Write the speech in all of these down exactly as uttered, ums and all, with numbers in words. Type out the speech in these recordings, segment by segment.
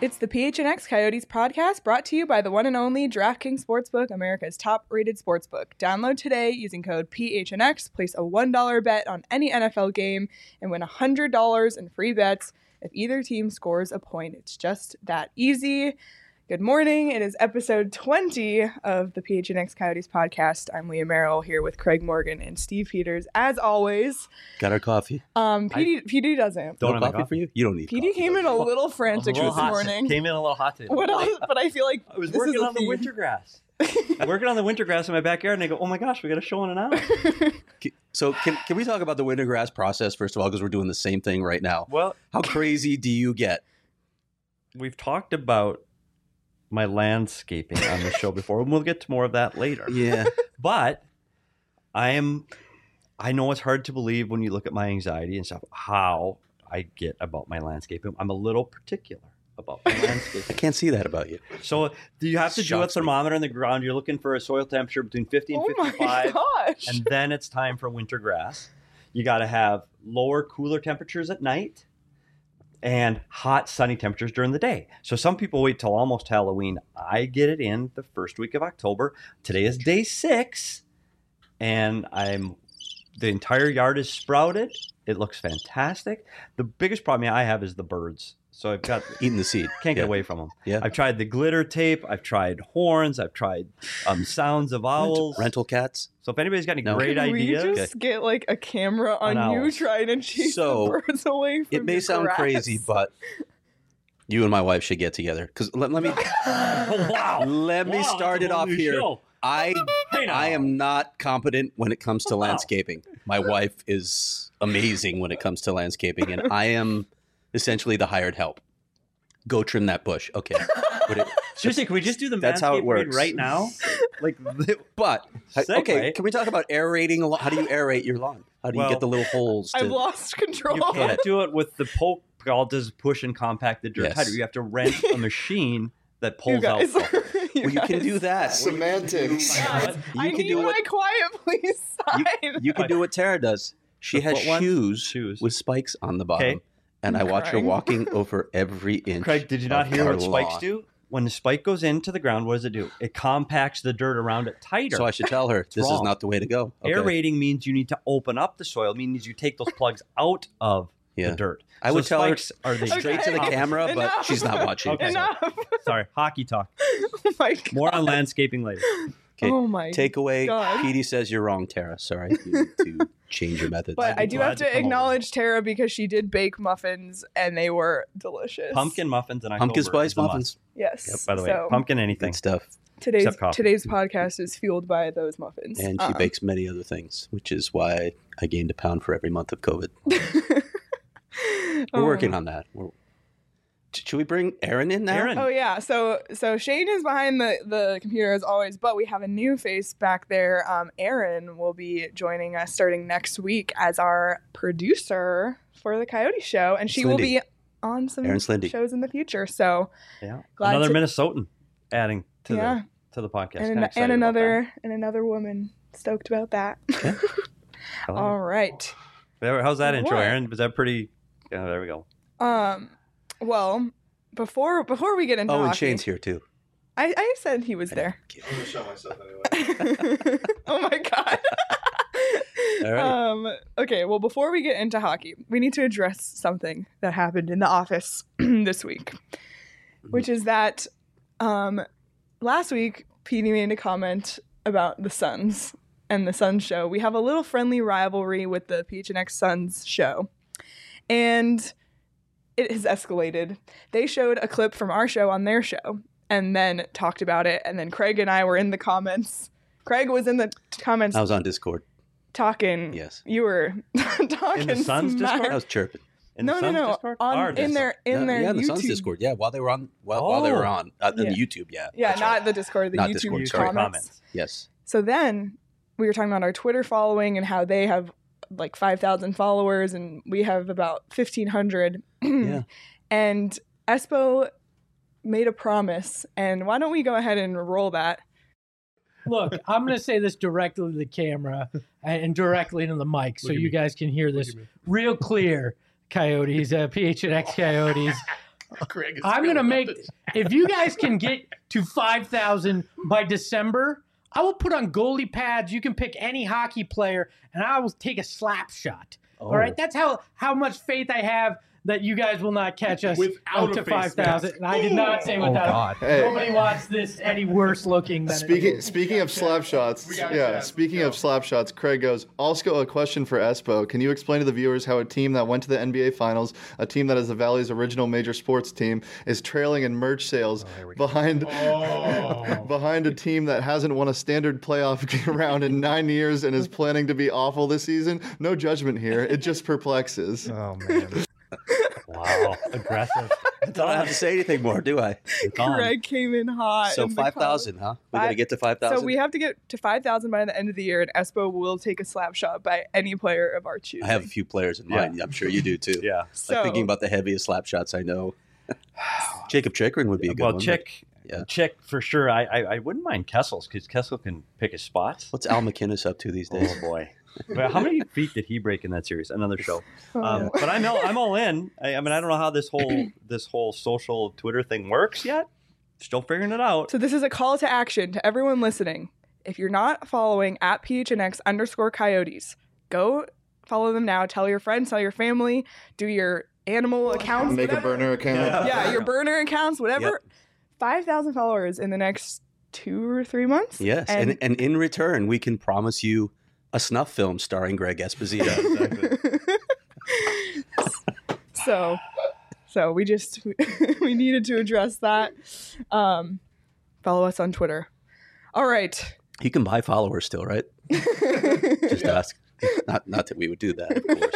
It's the P H N X Coyotes podcast brought to you by the one and only DraftKings Sportsbook, America's top-rated sportsbook. Download today using code P H N X, place a one dollar bet on any N F L game, and win one hundred dollars in free bets if either team scores a point. It's just that easy. Good morning. It is episode twenty of the P H N X Coyotes podcast. I'm Leah Merrill here with Craig Morgan and Steve Peters. As always, got our coffee. Um, P D, I, P D doesn't. Don't no have coffee for you? You don't need P D coffee. came in a little frantic a little this hot, morning. Came in a little hot today. What else? But I feel like I was this working is on the theme. winter grass. I'm working on the winter grass in my backyard, and I go, "Oh my gosh, we got a show in an hour." So can can we talk about the winter grass process first of all, because we're doing the same thing right now? Well, how crazy do you get? We've talked about my landscaping on the show before, and we'll get to more of that later. Yeah. But I am, I know it's hard to believe when you look at my anxiety and stuff, how I get about my landscaping. I'm a little particular about my landscaping. I can't see that about you. So do you have to do a thermometer in the ground? You're looking for a soil temperature between fifty and oh fifty-five. My gosh. And then it's time for winter grass. You got to have lower, cooler temperatures at night and hot, sunny temperatures during the day. So some people wait till almost Halloween. I get it in the first week of October. Today is day six, and I'm the entire yard is sprouted. It looks fantastic. The biggest problem I have is the birds. So I've got eating the seed. Can't get yeah. away from them. Yeah. I've tried the glitter tape. I've tried horns. I've tried um, sounds of owls. Rental, rental cats. So if anybody's got any no. great Can ideas, we just get like a camera on An you owl. trying to chase So, the birds away from it may your sound grass. crazy, but you and my wife should get together. Because let, let me wow, let me wow, start it off here. Show. I Hey I am not competent when it comes to Wow. landscaping. My wife is amazing when it comes to landscaping, and I am essentially the hired help. Go trim that bush. Okay. But it, Seriously, can we just do the That's how it manscaping read works. right now? Like, but Segue. okay, can we talk about aerating a lawn? How do you aerate your lawn? How do you Well, get the little holes? To, I've lost control. you can't do it with the poke. All it does is push and compact the dirt Yes. tighter. You have to rent a machine that You pulls out. guys. stuff. you, well, you can guys. do that. Semantics. Guys, You I can need do my what- quiet please You, sign. you can do what Tara does. She The has foot one? shoes, Shoes. with spikes on the bottom, Okay. and I'm I watch crying. her walking over every inch. Craig, did you not of hear our what spikes lawn. do? When the spike goes into the ground, what does it do? It compacts the dirt around it tighter. So I should tell her this is wrong. not the way to go. Okay. Aerating means you need to open up the soil. It means you take those plugs out of Yeah. the dirt. I So would tell her spikes are the straight Okay. to the camera, but Enough. she's not watching. Okay. Enough. Sorry, hockey talk. Oh my god. More on landscaping later. Okay. Oh my Takeaway: God. Petey says you're wrong, Tara. Sorry, you need to change your methods. But I'd be I do glad have to to come over. acknowledge Tara because she did bake muffins and they were delicious. Pumpkin muffins and Pumpkin spice muffins. Yes. Yep, by the way, so pumpkin anything. Good stuff. today's except coffee. today's podcast is fueled by those muffins. And she Uh, bakes many other things, which is why I gained a pound for every month of COVID. We're Oh. working on that. We're, should we bring Aaron in now? Aaron. Oh yeah, so so Shane is behind the, the computer as always, but we have a new face back there. Um, Aaron will be joining us starting next week as our producer for the Coyote Show, and she will Slindy. be on some Aaron Slindy. shows in the future. So Yeah. Glad Another to- Minnesotan adding to yeah, the to the podcast. and, Kinda an, excited and about another and another woman stoked about that. that. I like All it. right. There- How's that intro, What? Aaron? Was that pretty? Yeah, there we go. Um. Well, before before we get into Oh, and hockey, Shane's here too. I, I said he was there. I'm gonna show myself anyway. Oh my god. All right. Um, okay, well, before we get into hockey, we need to address something that happened in the office this week, which is that um, last week, Petey made a comment about the Suns and the Suns show. We have a little friendly rivalry with the P H N X Suns show, and it has escalated. They showed a clip from our show on their show and then talked about it, and then Craig and I were in the comments. Craig was in the comments I was on Discord. talking. Yes. You were talking In the Suns smack. Discord? I was chirping. In no, the no, Suns no. Discord? On, Our in Discord. their in yeah, their yeah, the YouTube. Suns Discord. Yeah, while they were on, while, while they were Oh. on, uh, in Yeah. the YouTube. Yeah. Yeah, That's not right. the Discord, the Not YouTube Discord, You sorry. sorry, comments. comments. Yes. So then we were talking about our Twitter following and how they have like five thousand followers and we have about fifteen hundred. Yeah. And Espo made a promise, and why don't we go ahead and roll that? Look, I'm going to say this directly to the camera and directly into the mic so Look at you me. guys can hear this at me. real clear, Coyotes, uh, P H N X Coyotes. Greg is I'm gonna filling make. up his- If you guys can get to five thousand by December, I will put on goalie pads. You can pick any hockey player, and I will take a slap shot. All right, that's how how much faith I have that you guys will not catch us Without up a to face five thousand. mask. And I did not say Oh, without. God. Hey. Nobody wants this any worse looking than it Speaking is. speaking of slap shots, We got yeah. chat. Speaking Go. of slap shots, Craig goes. Also, a question for Espo. Can you explain to the viewers how a team that went to the N B A Finals, a team that is the Valley's original major sports team, is trailing in merch sales behind Oh. behind a team that hasn't won a standard playoff round in nine years and is planning to be awful this season? No judgment here. It just perplexes. Oh man. Wow, aggressive. I don't have to say anything more, do I? It's on. Greg came in hot. So in the five comments. thousand, huh? We got to Five- get to five thousand. So we have to get to five thousand by the end of the year, and Espo will take a slap shot by any player of our choosing. I have a few players in Yeah. mind. I'm sure you do too. Yeah. so, Like thinking about the heaviest slap shots I know. Jacob Chikrin would be a good Well, one. but Chick, Yeah. Chick for sure. I I, I wouldn't mind Kessel's because Kessel can pick his spots. What's Al McInnes up to these days? Oh boy. But how many feet did he break in that series? Another show. Oh. Um, but I'm all, I'm all in. I, I mean, I don't know how this whole this whole social Twitter thing works yet. Still figuring it out. So this is a call to action to everyone listening. If you're not following at P H N X underscore Coyotes, go follow them now. Tell your friends, tell your family, do your animal accounts. Make a whatever. burner account. Yeah. Yeah, your burner accounts, whatever. Yep. five thousand followers in the next two or three months. Yes, And- and, and in return, we can promise you a snuff film starring Greg Esposito. so, so we just we needed to address that. Um, follow us on Twitter. All right. You can buy followers still, right? Just ask. Not, not that we would do that, of course.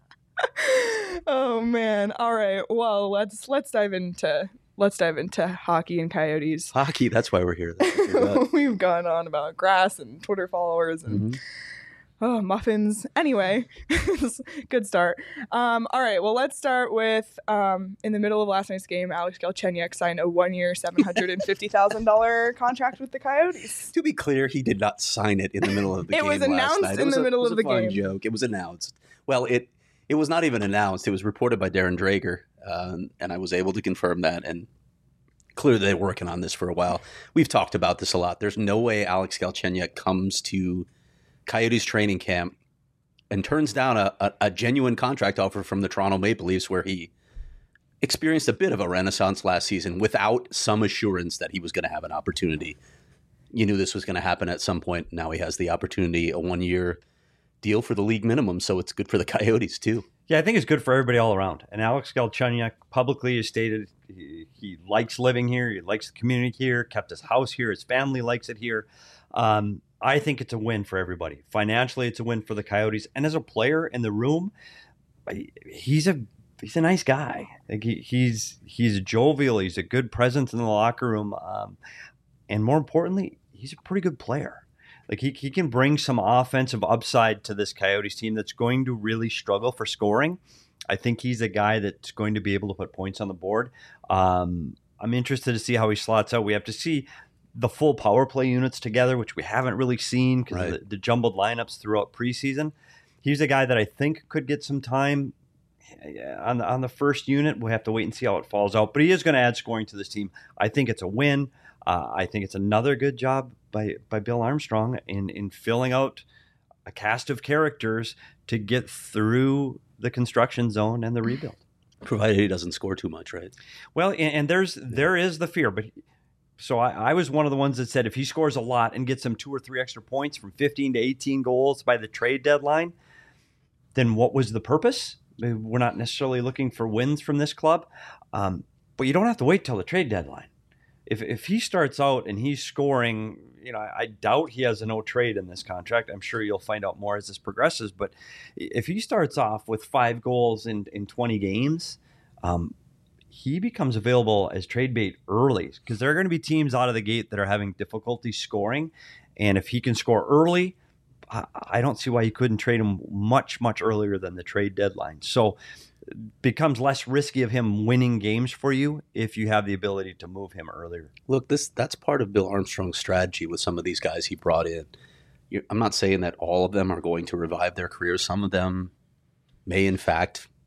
Oh man. All right. Well, let's let's dive into let's dive into hockey and Coyotes. Hockey, that's why we're here. That's what we're about. We've gone on about grass and Twitter followers and Mhm. oh muffins. Anyway, good start. Um, all right. Well, let's start with um, in the middle of last night's game, Alex Galchenyuk signed a one-year, seven hundred and fifty thousand dollar contract with the Coyotes. To be clear, he did not sign it in the middle of the It game. was last announced night. It in was the a- middle it was of a the fun game. Joke. It was announced. Well, it it was not even announced. It was reported by Darren Drager, um, and I was able to confirm that. And clearly, they're working on this for a while. We've talked about this a lot. There's no way Alex Galchenyuk comes to Coyotes training camp and turns down a, a, a genuine contract offer from the Toronto Maple Leafs, where he experienced a bit of a renaissance last season without some assurance that he was going to have an opportunity. You knew this was going to happen at some point. Now he has the opportunity, a one-year deal for the league minimum, so it's good for the Coyotes too. Yeah, I think it's good for everybody all around. And Alex Galchenyuk publicly has stated he, he likes living here. He likes the community here, kept his house here. His family likes it here. Um, I think it's a win for everybody. Financially, it's a win for the Coyotes. And as a player in the room, he's a he's a nice guy. Like he, he's he's jovial. He's a good presence in the locker room. Um, and more importantly, he's a pretty good player. Like he, he can bring some offensive upside to this Coyotes team that's going to really struggle for scoring. I think he's a guy that's going to be able to put points on the board. Um, I'm interested to see how he slots out. We have to see the full power play units together, which we haven't really seen because Right. of the, the jumbled lineups throughout preseason. He's a guy that I think could get some time on the, on the first unit. We'll have to wait and see how it falls out. But he is going to add scoring to this team. I think it's a win. Uh, I think it's another good job by by Bill Armstrong in in filling out a cast of characters to get through the construction zone and the rebuild. Provided he doesn't score too much, right? Well, and, and there's there is the fear, but so I, I was one of the ones that said if he scores a lot and gets some two or three extra points from fifteen to eighteen goals by the trade deadline, then what was the purpose? We're not necessarily looking for wins from this club, um, but you don't have to wait till the trade deadline. If if he starts out and he's scoring, you know, I, I doubt he has a no trade in this contract. I'm sure you'll find out more as this progresses. But if he starts off with five goals in, in twenty games, um, he becomes available as trade bait early because there are going to be teams out of the gate that are having difficulty scoring. And if he can score early, I, I don't see why you couldn't trade him much, much earlier than the trade deadline. So becomes less risky of him winning games for you if you have the ability to move him earlier. Look, this that's part of Bill Armstrong's strategy with some of these guys he brought in. You, I'm not saying that all of them are going to revive their careers. Some of them may, in fact,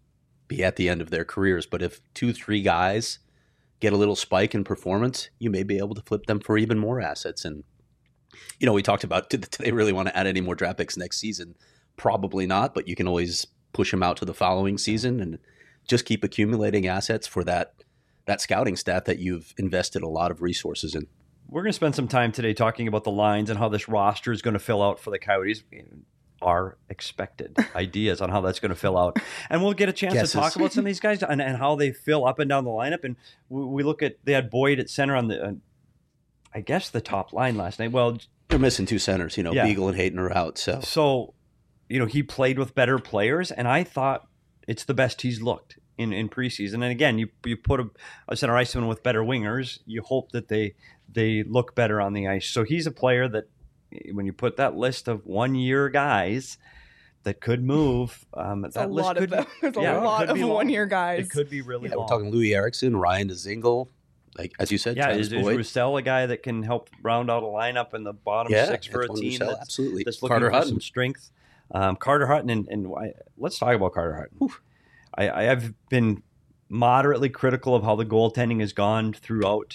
be at the end of their careers. But if two, three guys get a little spike in performance, you may be able to flip them for even more assets. And, you know, we talked about, do they really want to add any more draft picks next season? Probably not, but you can always push them out to the following season and just keep accumulating assets for that that scouting staff that you've invested a lot of resources in. We're going to spend some time today talking about the lines and how this roster is going to fill out for the Coyotes. Our expected ideas on how that's going to fill out. And we'll get a chance Guesses. to talk about some of these guys and, and how they fill up and down the lineup. And we, we look at, they had Boyd at center on the, uh, I guess, the top line last night. Well, They're missing two centers, you know, Yeah. Beagle and Hayton are out. So, so, you know, he played with better players, and I thought it's the best he's looked in, in preseason. And again, you you put a, a center iceman with better wingers, you hope that they they look better on the ice. So he's a player that, when you put that list of one-year guys that could move, um, It's that a list lot could of them. There's yeah, a it lot could of be long. one-year It guys. could be really yeah, long. we're talking Louis Erickson, Ryan DeZingle, like as you said, yeah, Travis is, is Boyd. Roussel a guy that can help round out a lineup in the bottom yeah, six for a Antoine team Roussel, that's, absolutely. that's looking Carter for Hutton. some strength? Um, Carter Hutton, and, and why, let's talk about Carter Hutton. I, I have been moderately critical of how the goaltending has gone throughout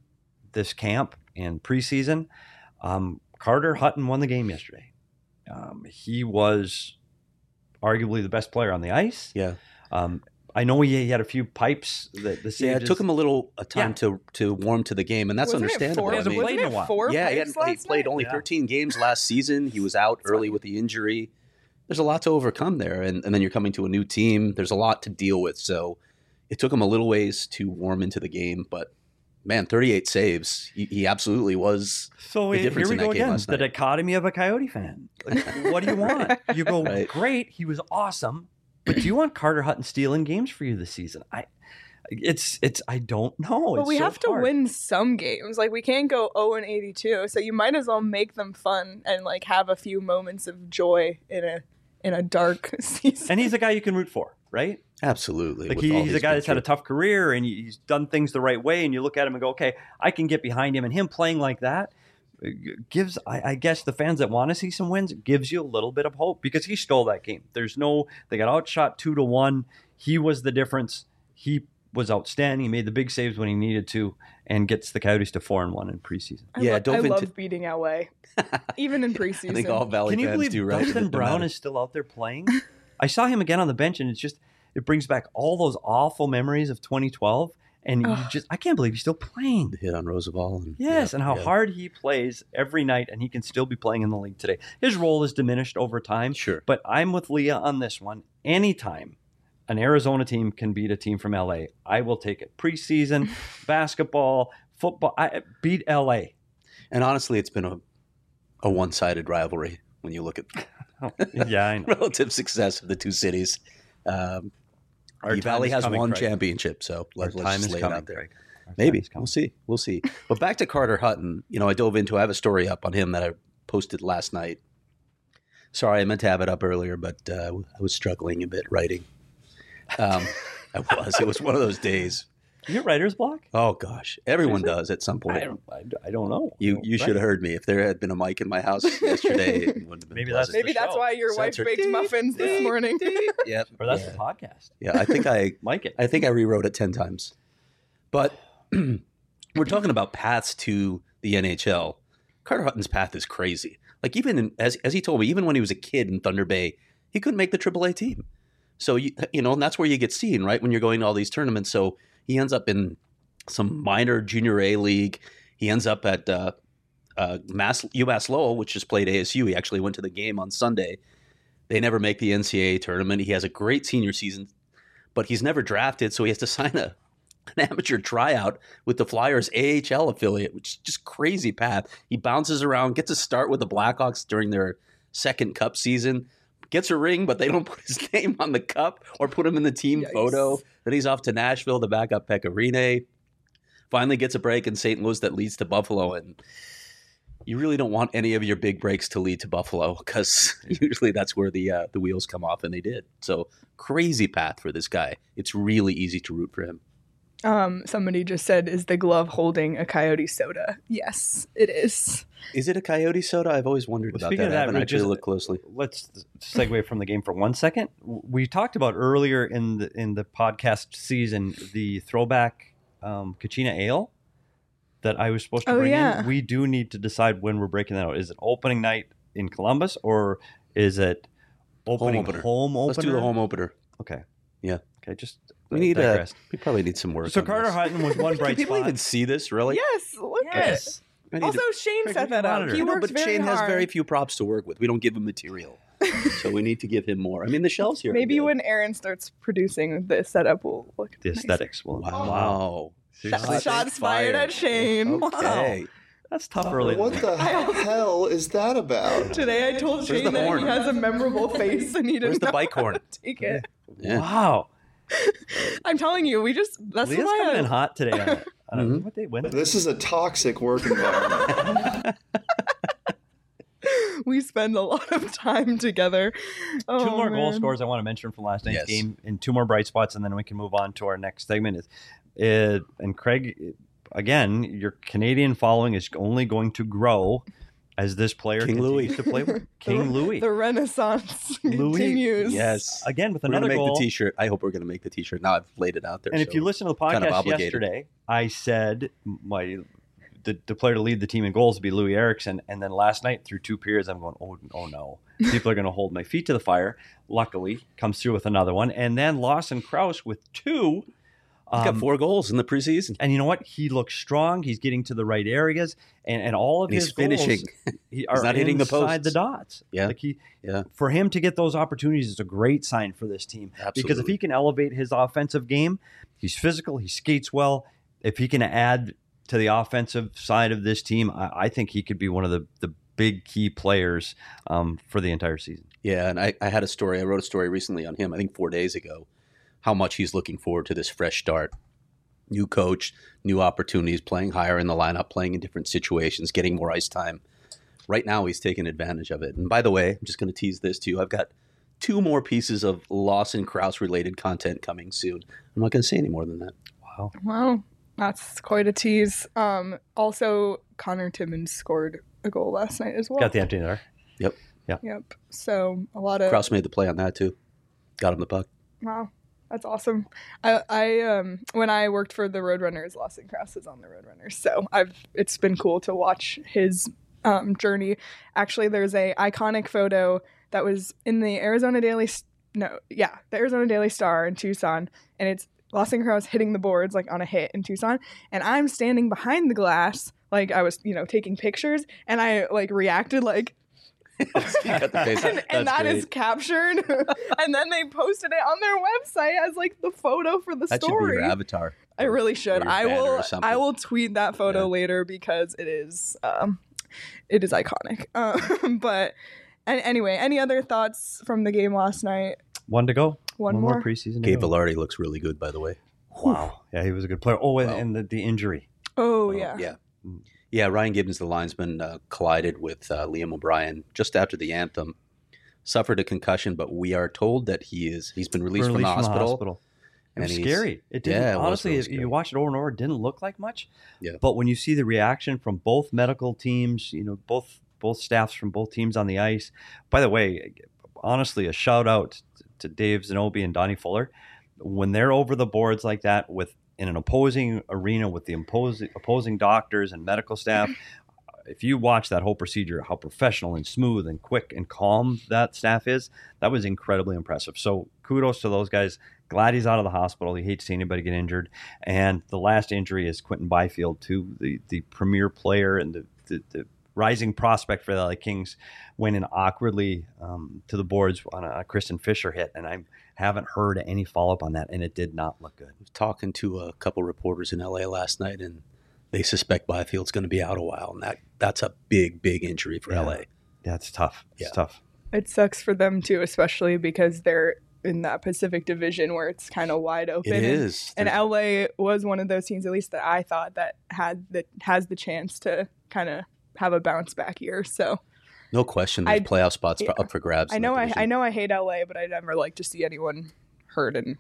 this camp and preseason. Um, Carter Hutton won the game yesterday. Um, he was arguably the best player on the ice. Yeah. Um, I know he, he had a few pipes that the Yeah, it took him a little a time Yeah. to to warm to the game, and that's Wasn't it understandable. Four, He hasn't I mean, played wasn't in a it while. four yeah, he, pipes hadn't, he last played night? only Yeah. thirteen games last season. He was out early with the injury. There's a lot to overcome there, and, and then you're coming to a new team. There's a lot to deal with, so it took him a little ways to warm into the game. But man, thirty-eight saves. He, he absolutely was. So the here difference we in that go game again. last The night. dichotomy of a Coyote fan. Like, what do you want? You go, Right. great, he was awesome, but do you want Carter Hutton stealing games for you this season? I, it's, it's, I don't know. But It's we so have to hard. win some games. Like we can't go oh and eighty-two. So you might as well make them fun and like have a few moments of joy in a in a dark season. And he's a guy you can root for, right? Absolutely. Like with he, all he's a he's guy been that's had a through. tough career and he's done things the right way. And you look at him and go, okay, I can get behind him. And him playing like that uh, gives, I, I guess, the fans that want to see some wins, gives you a little bit of hope because he stole that game. There's no, they got outshot two to one. He was the difference. He was outstanding. He made the big saves when he needed to and gets the Coyotes to four and one in preseason. I Yeah, lo- dove I into- love beating L A, even in preseason. I think all Valley Can you fans believe do, right? Dustin No Brown matter. is still out there playing? I saw him again on the bench, and it's just it brings back all those awful memories of twenty twelve. And you Ugh. just I can't believe he's still playing. The hit on Roosevelt. And, Yes, yeah, and how yeah. hard he plays every night, and he can still be playing in the league today. His role is diminished over time, Sure. but I'm with Leah on this one. Anytime an Arizona team can beat a team from L A, I will take it. Preseason, basketball, football, I beat L A. And honestly, it's been a a one sided rivalry when you look at Yeah, I know. relative success of the two cities. Um, Our the time Valley is has coming, one Craig. championship, so Our let, let's time just is lay it coming, out there. Craig. Our time Maybe is coming. we'll see. We'll see. But back to Carter Hutton. You know, I dove into. I have a story up on him that I posted last night. Sorry, I meant to have it up earlier, but uh, I was struggling a bit writing. Um, I was. It was one of those days. You get writer's block? Oh gosh, everyone Seriously? does at some I point. don't, I, I don't know. You I don't you should write. have heard me. If there had been a mic in my house yesterday, it wouldn't have been Maybe that's- pleasant. Maybe the that's show. why your wife Censored. baked Ding, muffins this ding, morning. Yep. Or that's yeah. the podcast. Yeah, I think I Mike it. I think I rewrote it ten times. But we're talking about paths to the N H L. Carter Hutton's path is crazy. Like even in, as as he told me, even when he was a kid in Thunder Bay, he couldn't make the triple A team. So you you know, and that's where you get seen, right? When you're going to all these tournaments. So he ends up in some minor junior A league. He ends up at uh, uh, Mass UMass Lowell, which just played A S U. He actually went to the game on Sunday. They never make the N C double A tournament. He has a great senior season, but he's never drafted, so he has to sign a an amateur tryout with the Flyers A H L affiliate, which is just crazy path. He bounces around, gets a start with the Blackhawks during their second cup season, gets a ring, but they don't put his name on the cup or put him in the team Yikes. photo. Then he's off to Nashville to back up Pekka Rinne. Finally gets a break in Saint Louis that leads to Buffalo, and you really don't want any of your big breaks to lead to Buffalo because usually that's where the uh, the wheels come off, and they did. So crazy path for this guy. It's really easy to root for him. Um, somebody just said, "Is the glove holding a Coyote soda?" Yes, it is. Is it a Coyote soda? I've always wondered Well, about speaking that. of I that, haven't we actually just- looked closely. Let's segue from the game for one second. We talked about earlier in the in the podcast season the throwback um, Kachina Ale that I was supposed to Oh, bring yeah. in. We do need to decide when we're breaking that out. Is it opening night in Columbus or is it opening opener. home opener? Let's do the home opener. Okay. Yeah. Okay. Just We need a. digressed. We probably need some work. So on Carter this. Hutton was one Can bright people spot. even see this? Really? Yes, look Yes. I at it. need Also, to- Shane Craig, set look that at up. monitor. He I know, works but very Shane hard. has very few props to work with. We don't give him material, so we need to give him more. I mean, the shelves here. are Maybe good. when Aaron starts producing the setup, will look the nice. aesthetics. Will, Wow. Seriously? Shots, shots fired at Shane. Okay. That's tough early. What the hell is that about? Today I told Where's Shane the that horn? he has a memorable face and he Where's didn't the know bike how horn? to take it. Yeah. Wow. I'm telling you, we just that's Leah's why coming I, in hot today. On a, on a, Mhm. What day? When? This is a toxic work environment. we spend a lot of time together. Oh, two more goal man. scores I want to mention from last night's Yes. game, and two more bright spots, and then we can move on to our next segment. Is it, and Craig, again, your Canadian following is only going to grow as this player King continues Louis. to play with King the, Louis. The Renaissance Louis, continues. Yes. Again with We're gonna another make goal. the T-shirt. I hope we're gonna make the T-shirt. Now I've laid it out there. And if so- you listen to the kind of podcast obligated. yesterday, I said my the, the player to lead the team in goals would be Louis Eriksson, and then last night through two periods, I'm going, oh, oh no, people are going to hold my feet to the fire. Luckily, comes through with another one, and then Lawson Krause with two. he's got Um, four goals in the preseason. and you know what? He looks strong. He's getting to the right areas, and, and all of And his he's finishing. goals he, are not hitting the inside the posts. dots. Yeah. like he, Yeah. for him to get those opportunities is a great sign for this team. Because if Absolutely. he can elevate his offensive game, he's physical, he skates well. If he can add to the offensive side of this team, I, I think he could be one of the, the big key players um, for the entire season. Yeah, and I, I had a story. I wrote a story recently on him. I think four days ago, how much he's looking forward to this fresh start. New coach, new opportunities, playing higher in the lineup, playing in different situations, getting more ice time. Right now, he's taking advantage of it. And by the way, I'm just going to tease this too. I've got two more pieces of Lawson Krause related content coming soon. I'm not going to say any more than that. Wow. Wow, that's quite a tease. Um, also, Connor Timmins scored a goal last night as well. Got the empty netter. Yep. Yep. So a lot of Krause made the play on that too. Got him the puck. wow, that's awesome. I, I um when I worked for the Roadrunners, Lawson Krause is on the Roadrunners, so I've it's been cool to watch his um journey. Actually, there's a iconic photo that was in the Arizona Daily S- no yeah the Arizona Daily Star in Tucson, and it's Lawson Krause hitting the boards like on a hit in Tucson, and I'm standing behind the glass like I was you know taking pictures, and I like reacted like. You got the face. and, and That's that great. is captured and then they posted it on their website as like the photo for the That should be story. your avatar. I really should. or your I banner will or something. I will tweet that photo Yeah. later because it is um it is iconic. Um, but and anyway, any other thoughts from the game last night? One to go. One, more. preseason. to Gabe go. Velarde looks really good, by the way. Wow. Yeah, he was a good player. Oh, and, Wow. and the, the injury. Oh yeah. Yeah. Yeah, Ryan Gibbons, the linesman, uh, collided with uh, Liam O'Brien just after the anthem. Suffered a concussion, but we are told that he is he's been released, from, the hospital. It was and he's- scary. It didn't. Yeah, it was honestly, really if scary. you watch it over and over, it didn't look like much. Yeah. But when you see the reaction from both medical teams, you know, both both staffs from both teams on the ice. By the way, honestly, a shout out to Dave Zanobi and Donnie Fuller. When they're over the boards like that with in an opposing arena with the opposing opposing doctors and medical staff, if you watch that whole procedure, how professional and smooth and quick and calm that staff is, that was incredibly impressive. So kudos to those guys. Glad he's out of the hospital. You hate to see anybody get injured. And the last injury is Quentin Byfield, too, the, the premier player and the, the, the rising prospect for the L A Kings, went in awkwardly um, to the boards on a Kristen Fisher hit. And I haven't heard any follow-up on that, and it did not look good. I was talking to a couple reporters in L A last night, and they suspect Byfield's going to be out a while, and that that's a big, big injury for Yeah. L A. That's tough. It's Yeah. tough. It sucks for them too, especially because they're in that Pacific Division where it's kind of wide open. It and- is. And There's- L A was one of those teams, at least that I thought, that had that has the chance to kind of have a bounce back year. So no question, there's I- playoff spots yeah. for, up for grabs. I in know that I, division. I know I hate L A, but I never like to see anyone hurt and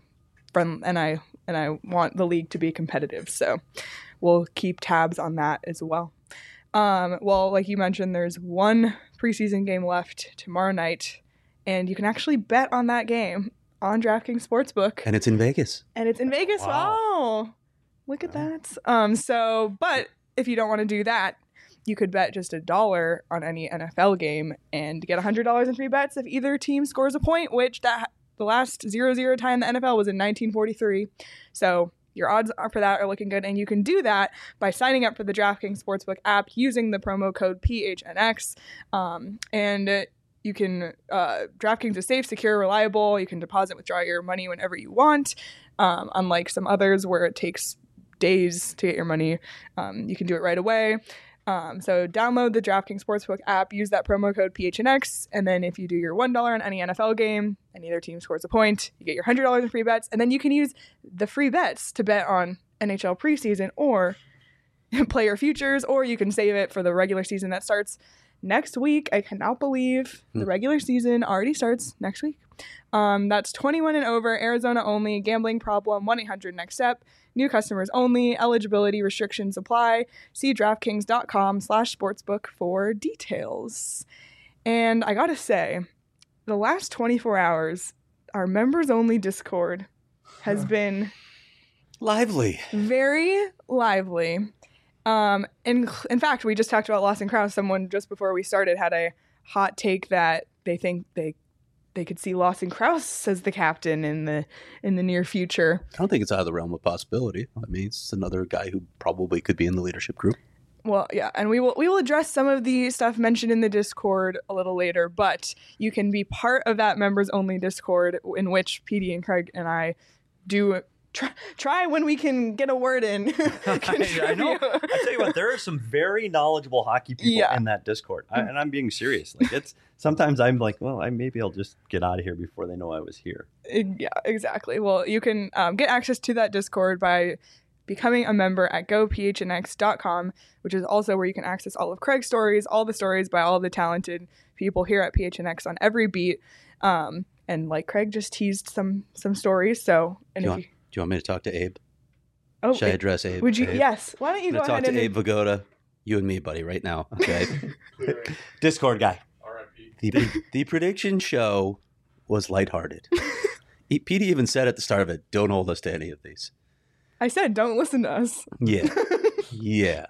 friend and I and I want the league to be competitive. So we'll keep tabs on that as well. Um, well, like you mentioned, there's one preseason game left tomorrow night, and you can actually bet on that game on DraftKings Sportsbook. And it's in Vegas. And it's in Vegas. Wow. Wow. Look at that. Um, so, but if you don't want to do that, you could bet just a dollar on any N F L game and get one hundred dollars in free bets if either team scores a point, which that the last zero zero tie in the N F L was in nineteen forty-three. So your odds are for that are looking good. And you can do that by signing up for the DraftKings Sportsbook app using the promo code P H N X. Um, and uh, you can, uh, DraftKings is safe, secure, reliable. You can deposit, withdraw your money whenever you want. Um, unlike some others where it takes days to get your money, um, you can do it right away. Um, so download the DraftKings Sportsbook app, use that promo code P H N X, and then if you do your one dollar on any N F L game and either team scores a point, you get your one hundred dollars in free bets, and then you can use the free bets to bet on N H L preseason or player futures, or you can save it for the regular season that starts next week. I cannot believe the regular season already starts next week. Um, that's twenty-one and over, Arizona only, gambling problem, one eight hundred next step. New customers only. Eligibility restrictions apply. See DraftKings.com slash sportsbook for details. And I gotta say, the last twenty-four hours, our members-only Discord has been Lively. very lively. Um, in, in fact, we just talked about Lawson Krause. Someone just before we started had a hot take that they think they they could see Lawson Krause as the captain in the in the near future. I don't think it's out of the realm of possibility. I mean, it's another guy who probably could be in the leadership group. Well, yeah, and we will we will address some of the stuff mentioned in the Discord a little later, but you can be part of that members only Discord in which P D and Craig and I do try, try when we can get a word in. I, I know. I tell you what, there are some very knowledgeable hockey people Yeah. in that Discord, I, and I'm being serious. Like it's sometimes I'm like, well, I maybe I'll just get out of here before they know I was here. Yeah, exactly. Well, you can um, get access to that Discord by becoming a member at go p h n x dot com, which is also where you can access all of Craig's stories, all the stories by all the talented people here at P H N X on every beat. Um, and like Craig just teased some some stories. So, and Do you, if want, you, do you want me to talk to Abe? oh, Should I it- address Abe? would you? Abe? Yes. Why don't you I'm go going to ahead talk to and Abe Vigoda. You and me, buddy, right now. Okay. Discord guy. R I P the, the prediction show was lighthearted. E- P D even said at the start of it, don't hold us to any of these. I said, don't listen to us. Yeah. Yeah.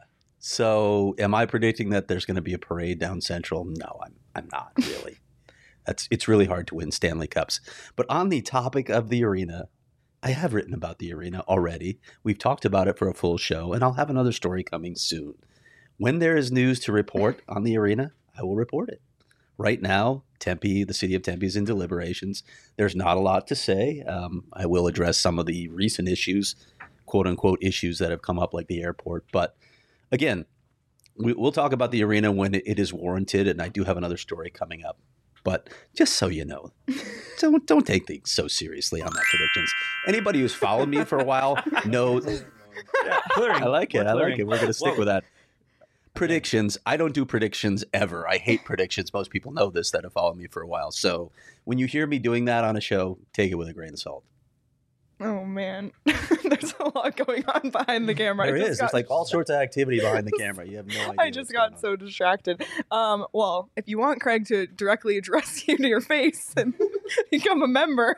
So am I predicting that there's going to be a parade down Central? No, I'm I'm not really. That's it's really hard to win Stanley Cups. But on the topic of the arena, I have written about the arena already. We've talked about it for a full show, and I'll have another story coming soon. When there is news to report on the arena, I will report it. Right now, Tempe, the city of Tempe, is in deliberations. There's not a lot to say. Um, I will address some of the recent issues, quote unquote issues that have come up, like the airport. But again, we, we'll talk about the arena when it, it is warranted, and I do have another story coming up. But just so you know, don't don't take things so seriously on that predictions. Anybody who's followed me for a while knows. Yeah, clearing. I like it. We're I like clearing. it. We're going to stick Whoa. with that. Predictions. I don't do predictions ever. I hate predictions. Most people know this that have followed me for a while. So when you hear me doing that on a show, take it with a grain of salt. Oh man, there's a lot going on behind the camera. There I just is. got- There's like all sorts of activity behind the camera. You have no idea. I just what's got going on. so distracted. Um, well, if you want Craig to directly address you to your face and become a member,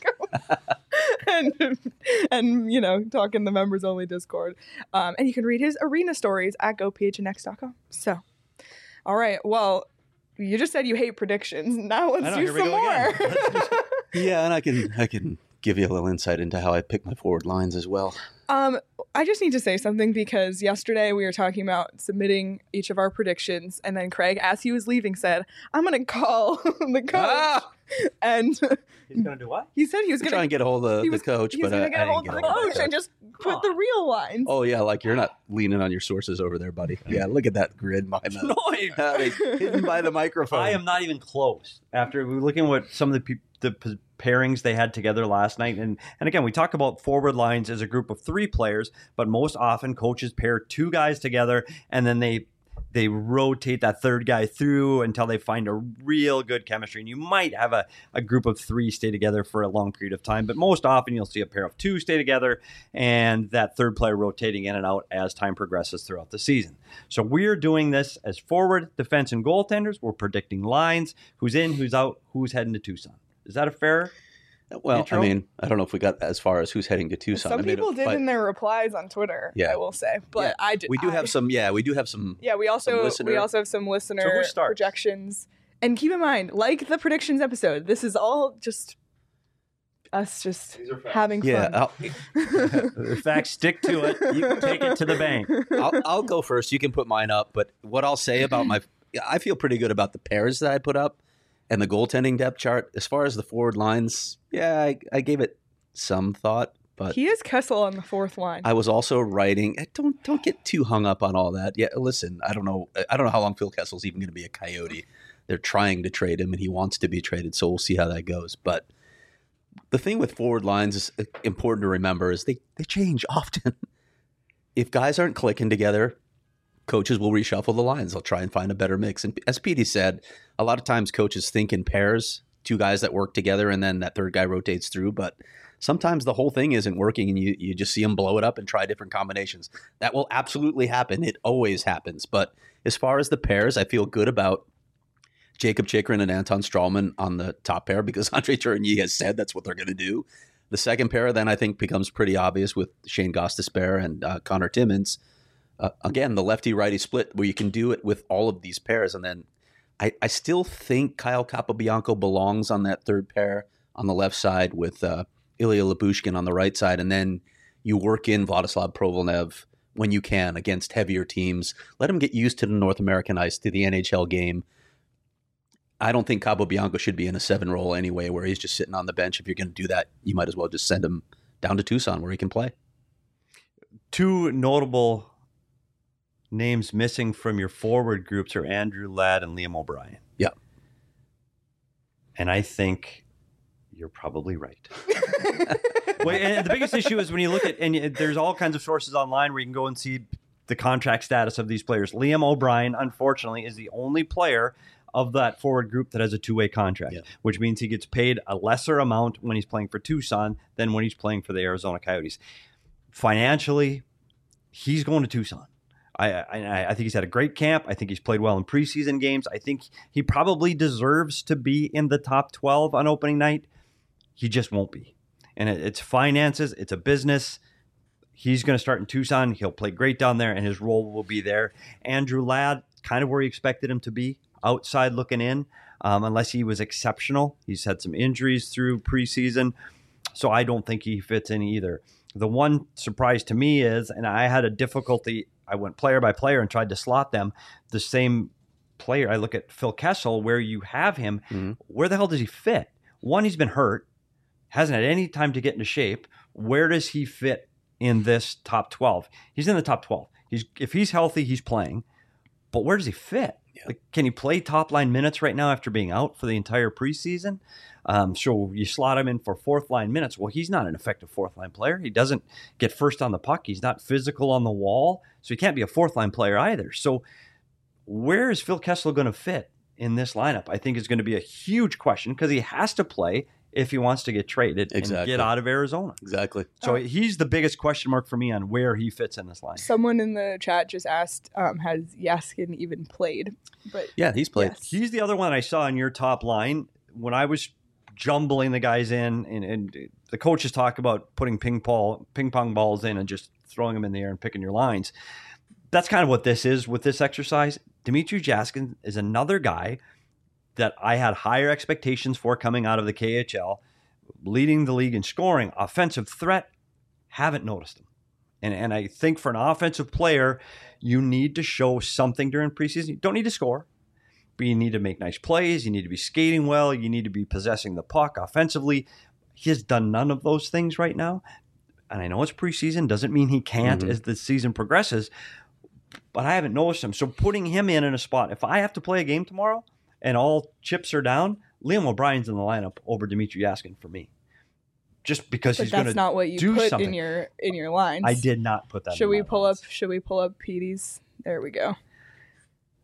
and and you know talk in the members only Discord, um, and you can read his arena stories at go p h n x dot com. So, all right. Well, you just said you hate predictions. Now let's I know, do here we some go more. again. Let's Yeah, and I can I can give you a little insight into how I pick my forward lines as well. Um, I just need to say something because yesterday we were talking about submitting each of our predictions, and then Craig, as he was leaving, said, "I'm going to call the coach," Ah! and He's gonna do what? he said he was I'm going trying to get a hold of he the was- coach, he's but going I, to get I a didn't hold get of a the hold of coach the and coach. just put the real lines. Oh yeah, like you're not leaning on your sources over there, buddy. Yeah, look at that grid behind that. No, I- Uh, hidden by the microphone. I am not even close. After we looking at what some of the peop the p- pairings they had together last night, and and again we talk about forward lines as a group of three players, but most often coaches pair two guys together, and then they They rotate that third guy through until they find a real good chemistry. And you might have a, a group of three stay together for a long period of time, but most often you'll see a pair of two stay together and that third player rotating in and out as time progresses throughout the season. So we're doing this as forward, defense, and goaltenders. We're predicting lines, who's in, who's out, who's heading to Tucson. Is that a fair? Well, intro? I mean, I don't know if we got as far as who's heading to Tucson. Some I mean, people did but- in their replies on Twitter. Yeah. I will say, but Yeah. I did. We do I- have some. Yeah, we do have some. Yeah, we also some listener- we also have some listener So who starts? projections. And keep in mind, like the predictions episode, this is all just us just These are facts. having Yeah, fun. I'll, In fact, stick to it. You can take it to the bank. I'll, I'll go first. You can put mine up. But what I'll say about my, I feel pretty good about the pairs that I put up and the goaltending depth chart. As far as the forward lines, yeah, I, I gave it some thought, but He is Kessel on the fourth line. I was also writing. eh, Don't don't get too hung up on all that. Yeah, listen, I don't know. I don't know how long Phil Kessel's even going to be a Coyote. They're trying to trade him, and he wants to be traded. So we'll see how that goes. But the thing with forward lines is uh, important to remember is they they change often. If guys aren't clicking together, coaches will reshuffle the lines. They'll try and find a better mix. And as Petey said, a lot of times coaches think in pairs, two guys that work together, and then that third guy rotates through. But sometimes the whole thing isn't working, and you, you just see them blow it up and try different combinations. That will absolutely happen. It always happens. But as far as the pairs, I feel good about Jacob Chikrin and Anton Strawman on the top pair because Andre Tourigny has said that's what they're going to do. The second pair then I think becomes pretty obvious with Shane Gostisbehere and uh, Connor Timmins. Uh, again, the lefty-righty split where you can do it with all of these pairs. And then I, I still think Kyle Capobianco belongs on that third pair on the left side with uh, Ilya Lyubushkin on the right side. And then you work in Vladislav Provolnev when you can against heavier teams. Let him get used to the North American ice, to the N H L game. I don't think Capobianco should be in a seven role anyway, where he's just sitting on the bench. If you're going to do that, you might as well just send him down to Tucson where he can play. Two notable names missing from your forward groups are Andrew Ladd and Liam O'Brien. Yeah. And I think you're probably right. Well, and the biggest issue is when you look at, and you- there's all kinds of sources online where you can go and see the contract status of these players. Liam O'Brien, unfortunately, is the only player of that forward group that has a two-way contract, Yeah. which means he gets paid a lesser amount when he's playing for Tucson than when he's playing for the Arizona Coyotes. Financially, he's going to Tucson. I, I, I think he's had a great camp. I think he's played well in preseason games. I think he probably deserves to be in the top twelve on opening night. He just won't be. And it, it's finances. It's a business. He's going to start in Tucson. He'll play great down there, and his role will be there. Andrew Ladd, kind of where he expected him to be, outside looking in, um, unless he was exceptional. He's had some injuries through preseason, so I don't think he fits in either. The one surprise to me is, and I had a difficulty, I went player by player and tried to slot them, the same player. I look at Phil Kessel, where you have him. Mhm. Where the hell does he fit? One, he's been hurt, hasn't had any time to get into shape. Where does he fit in this top twelve? He's in the top twelve. He's if he's healthy, he's playing. But where does he fit? Yeah. Like, can he play top line minutes right now after being out for the entire preseason? Um, so you slot him in for fourth line minutes. Well, he's not an effective fourth line player. He doesn't get first on the puck. He's not physical on the wall. So he can't be a fourth line player either. So where is Phil Kessel going to fit in this lineup? I think is going to be a huge question because he has to play if he wants to get traded and Exactly. get out of Arizona. Exactly. So Oh. he's the biggest question mark for me on where he fits in this line. Someone in the chat just asked, um, has Yaskin even played? But Yeah, he's played. yes. He's the other one I saw in your top line when I was jumbling the guys in, and, and the coaches talk about putting ping pong ping pong balls in and just throwing them in the air and picking your lines. That's kind of what this is with this exercise. Dmitry Jaskin is another guy that I had higher expectations for coming out of the K H L, leading the league in scoring, offensive threat. Haven't noticed him. And, and I think for an offensive player, you need to show something during preseason. You don't need to score, but you need to make nice plays. You need to be skating well. You need to be possessing the puck offensively. He has done none of those things right now. And I know it's preseason. Doesn't mean he can't Mhm. as the season progresses. But I haven't noticed him. So putting him in in a spot, if I have to play a game tomorrow and all chips are down, Liam O'Brien's in the lineup over Dmitry Yaskin for me. Just because but he's going that's to not what you do put something. in your in your lines. I did not put that Should in we my pull lines. up? Should we pull up Petey's? There we go.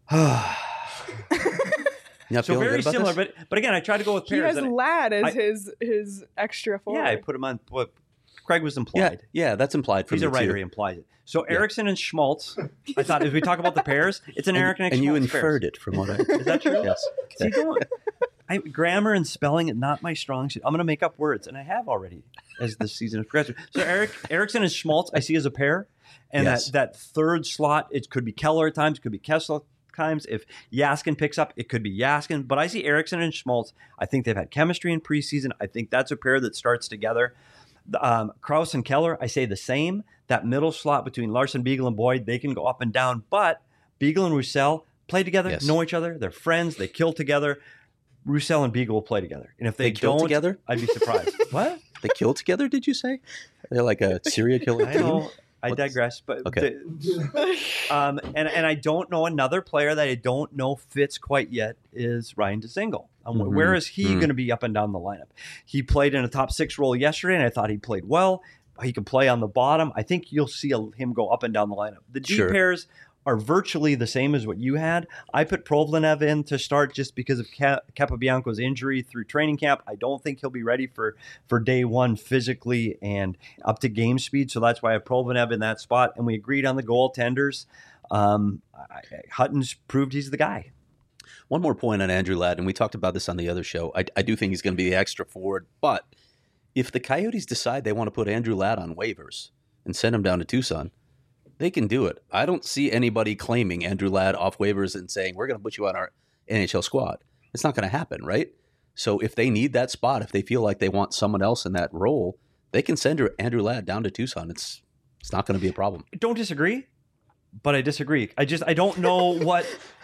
Not So feeling very good about similar, this? but but again, I tried to go with He pairs. has and Ladd as I- his his extra forward. yeah, I put him on what Craig was Yeah, implied. yeah, that's implied from He's a me, writer. too. He implies it. So Yeah. Erickson and Schmaltz. I thought as we talk about the pairs, it's an And, Eric and, and you Schmaltz inferred pairs. it from what I. Is that true? Yes. See, don't, I, grammar and spelling, not my strong suit. I'm going to make up words, and I have already as the season has progressed. So Eric Erickson and Schmaltz, I see as a pair, and Yes. that, that third slot, it could be Keller at times, it could be Kessel at times. If Yaskin picks up, it could be Yaskin. But I see Erickson and Schmaltz. I think they've had chemistry in preseason. I think that's a pair that starts together. Um, Krause and Keller, I say the same. That middle slot between Larson, Beagle, and Boyd, they can go up and down. But Beagle and Roussel play together, Yes. know each other. They're friends. They kill together. Roussel and Beagle will play together. And if they, They kill don't, together? I'd be surprised. What? They kill together, did you say? They're like a serial killer I team? know. I What's- digress. But Okay. the- um, and and I don't know another player that I don't know fits quite yet is Ryan DeSingle. Um, Mhm. Where is he Mhm. going to be up and down the lineup? He played in a top six role yesterday, and I thought he played well. He can play on the bottom. I think you'll see a, him go up and down the lineup. The D Sure. pairs are virtually the same as what you had. I put Provlenev in to start just because of Ca- Capobianco's injury through training camp. I don't think he'll be ready for, for day one physically and up to game speed. So that's why I have Provlenev in that spot. And we agreed on the goaltenders. Um, I, Hutton's proved he's the guy. One more point on Andrew Ladd, and we talked about this on the other show. I, I do think he's going to be the extra forward, but if the Coyotes decide they want to put Andrew Ladd on waivers and send him down to Tucson, they can do it. I don't see anybody claiming Andrew Ladd off waivers and saying, we're going to put you on our N H L squad. It's not going to happen, right? So if they need that spot, if they feel like they want someone else in that role, they can send Andrew Ladd down to Tucson. It's it's not going to be a problem. Don't disagree, but I disagree. I just I don't know what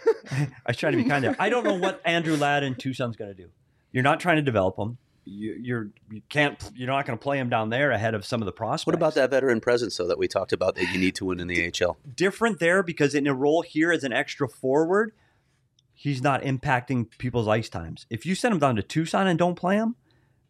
I was trying to be kind there. I don't know what Andrew Ladd in Tucson's going to do. You're not trying to develop him. You, you're you can't you're not going to play him down there ahead of some of the prospects. What about that veteran presence, though, that we talked about that you need to win in the A H L? Different there because in a role here as an extra forward, he's not impacting people's ice times. If you send him down to Tucson and don't play him,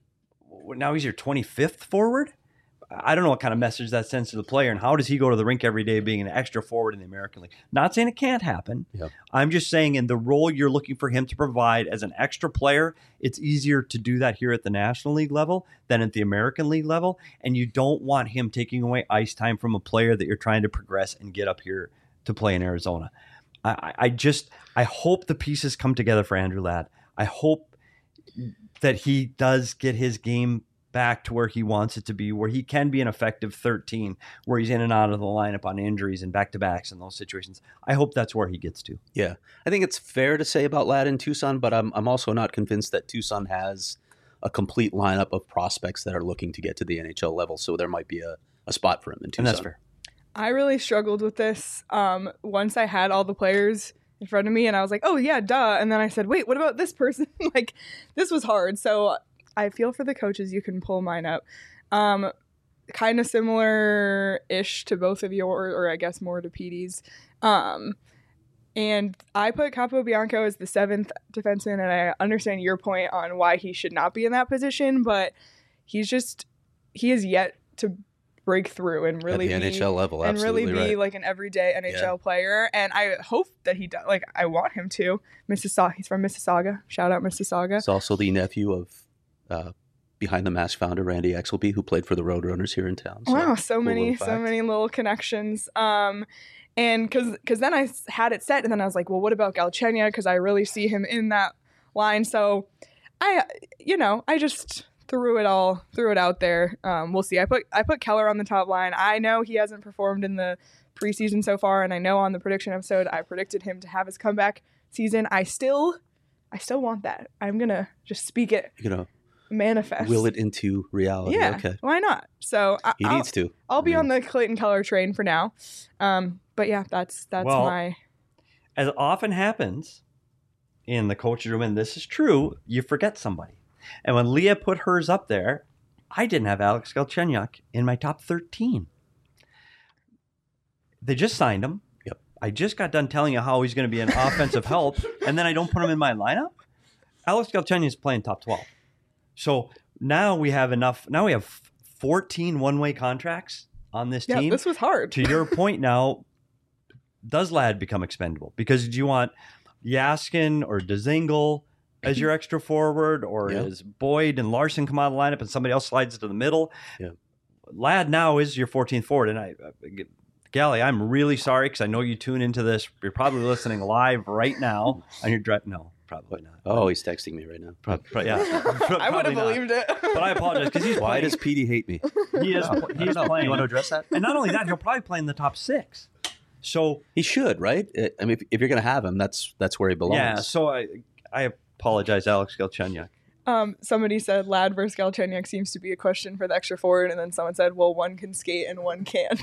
now he's your twenty-fifth forward. I don't know what kind of message that sends to the player, and how does he go to the rink every day being an extra forward in the American League? Not saying it can't happen. Yeah. I'm just saying in the role you're looking for him to provide as an extra player, it's easier to do that here at the National League level than at the American League level, and you don't want him taking away ice time from a player that you're trying to progress and get up here to play in Arizona. I, I- I just I hope the pieces come together for Andrew Ladd. I hope that he does get his game back to where he wants it to be, where he can be an effective thirteen, where he's in and out of the lineup on injuries and back-to-backs and those situations. I hope that's where he gets to. Yeah, I think it's fair to say about Ladd in Tucson, but I'm I'm also not convinced that Tucson has a complete lineup of prospects that are looking to get to the N H L level. So there might be a, a spot for him in Tucson. And that's fair. I really struggled with this um, once I had all the players in front of me, and I was like, oh, yeah, duh. And then I said, wait, what about this person? Like, this was hard. So I feel for the coaches. You can pull mine up. Um, kind of similar-ish to both of your, or I guess more to Petey's. Um, and I put Capobianco as the seventh defenseman, and I understand your point on why he should not be in that position, but he's just, he is yet to break through and really At the be, N H L level, and really absolutely be right. like an everyday N H L Yeah. player. And I hope that he does. Like, I want him to. Mississauga. He's from Mississauga. Shout out Mississauga. He's also the nephew of uh, Behind the Mask founder Randy Exelby, who played for the Roadrunners here in town. So, Wow, so cool many, little so fact. many little connections. Um, and because because then I s- had it set, and then I was like, well, what about Galchenyuk? Because I really see him in that line. So I, you know, I just threw it all, threw it out there. Um, we'll see. I put I put Keller on the top line. I know he hasn't performed in the preseason so far, and I know on the prediction episode I predicted him to have his comeback season. I still, I still want that. I'm gonna just speak it, You know, manifest. will it into reality. Yeah. Okay. Why not? So I, He I'll- needs to. I'll be I on mean, the Clayton Keller train for now. Um, but yeah, that's that's Well, my As often happens in the coach's room, and this is true, you forget somebody. And when Leah put hers up there, I didn't have Alex Galchenyuk in my top thirteen. They just signed him. Yep. I just got done telling you how he's going to be an offensive help, and then I don't put him in my lineup. Alex Galchenyuk is playing top twelve. So now we have enough. Now we have fourteen one-way contracts on this yeah. team. This was hard. To your point now, does Ladd become expendable? Because do you want Yaskin or Dzingel as your extra forward, or Yeah. is Boyd and Larson come out of the lineup and somebody else slides to the middle? Yeah. Ladd now is your fourteenth forward, and I, I Gally, I'm really sorry because I know you tune into this. You're probably listening live right now on your drive. No, probably not. Oh, he's texting me right now. Pro- pro- yeah, I would have believed it. But I apologize because he's Why playing. does Petey hate me? He is. He's playing. You want to address that? And not only that, he'll probably play in the top six. So He should, right? I mean, if, if you're going to have him, that's that's where he belongs. yeah. So I I apologize, Alex Galchenyuk. Um, somebody said Ladd versus Galchenyuk seems to be a question for the extra forward, and then someone said, well, one can skate and one can't.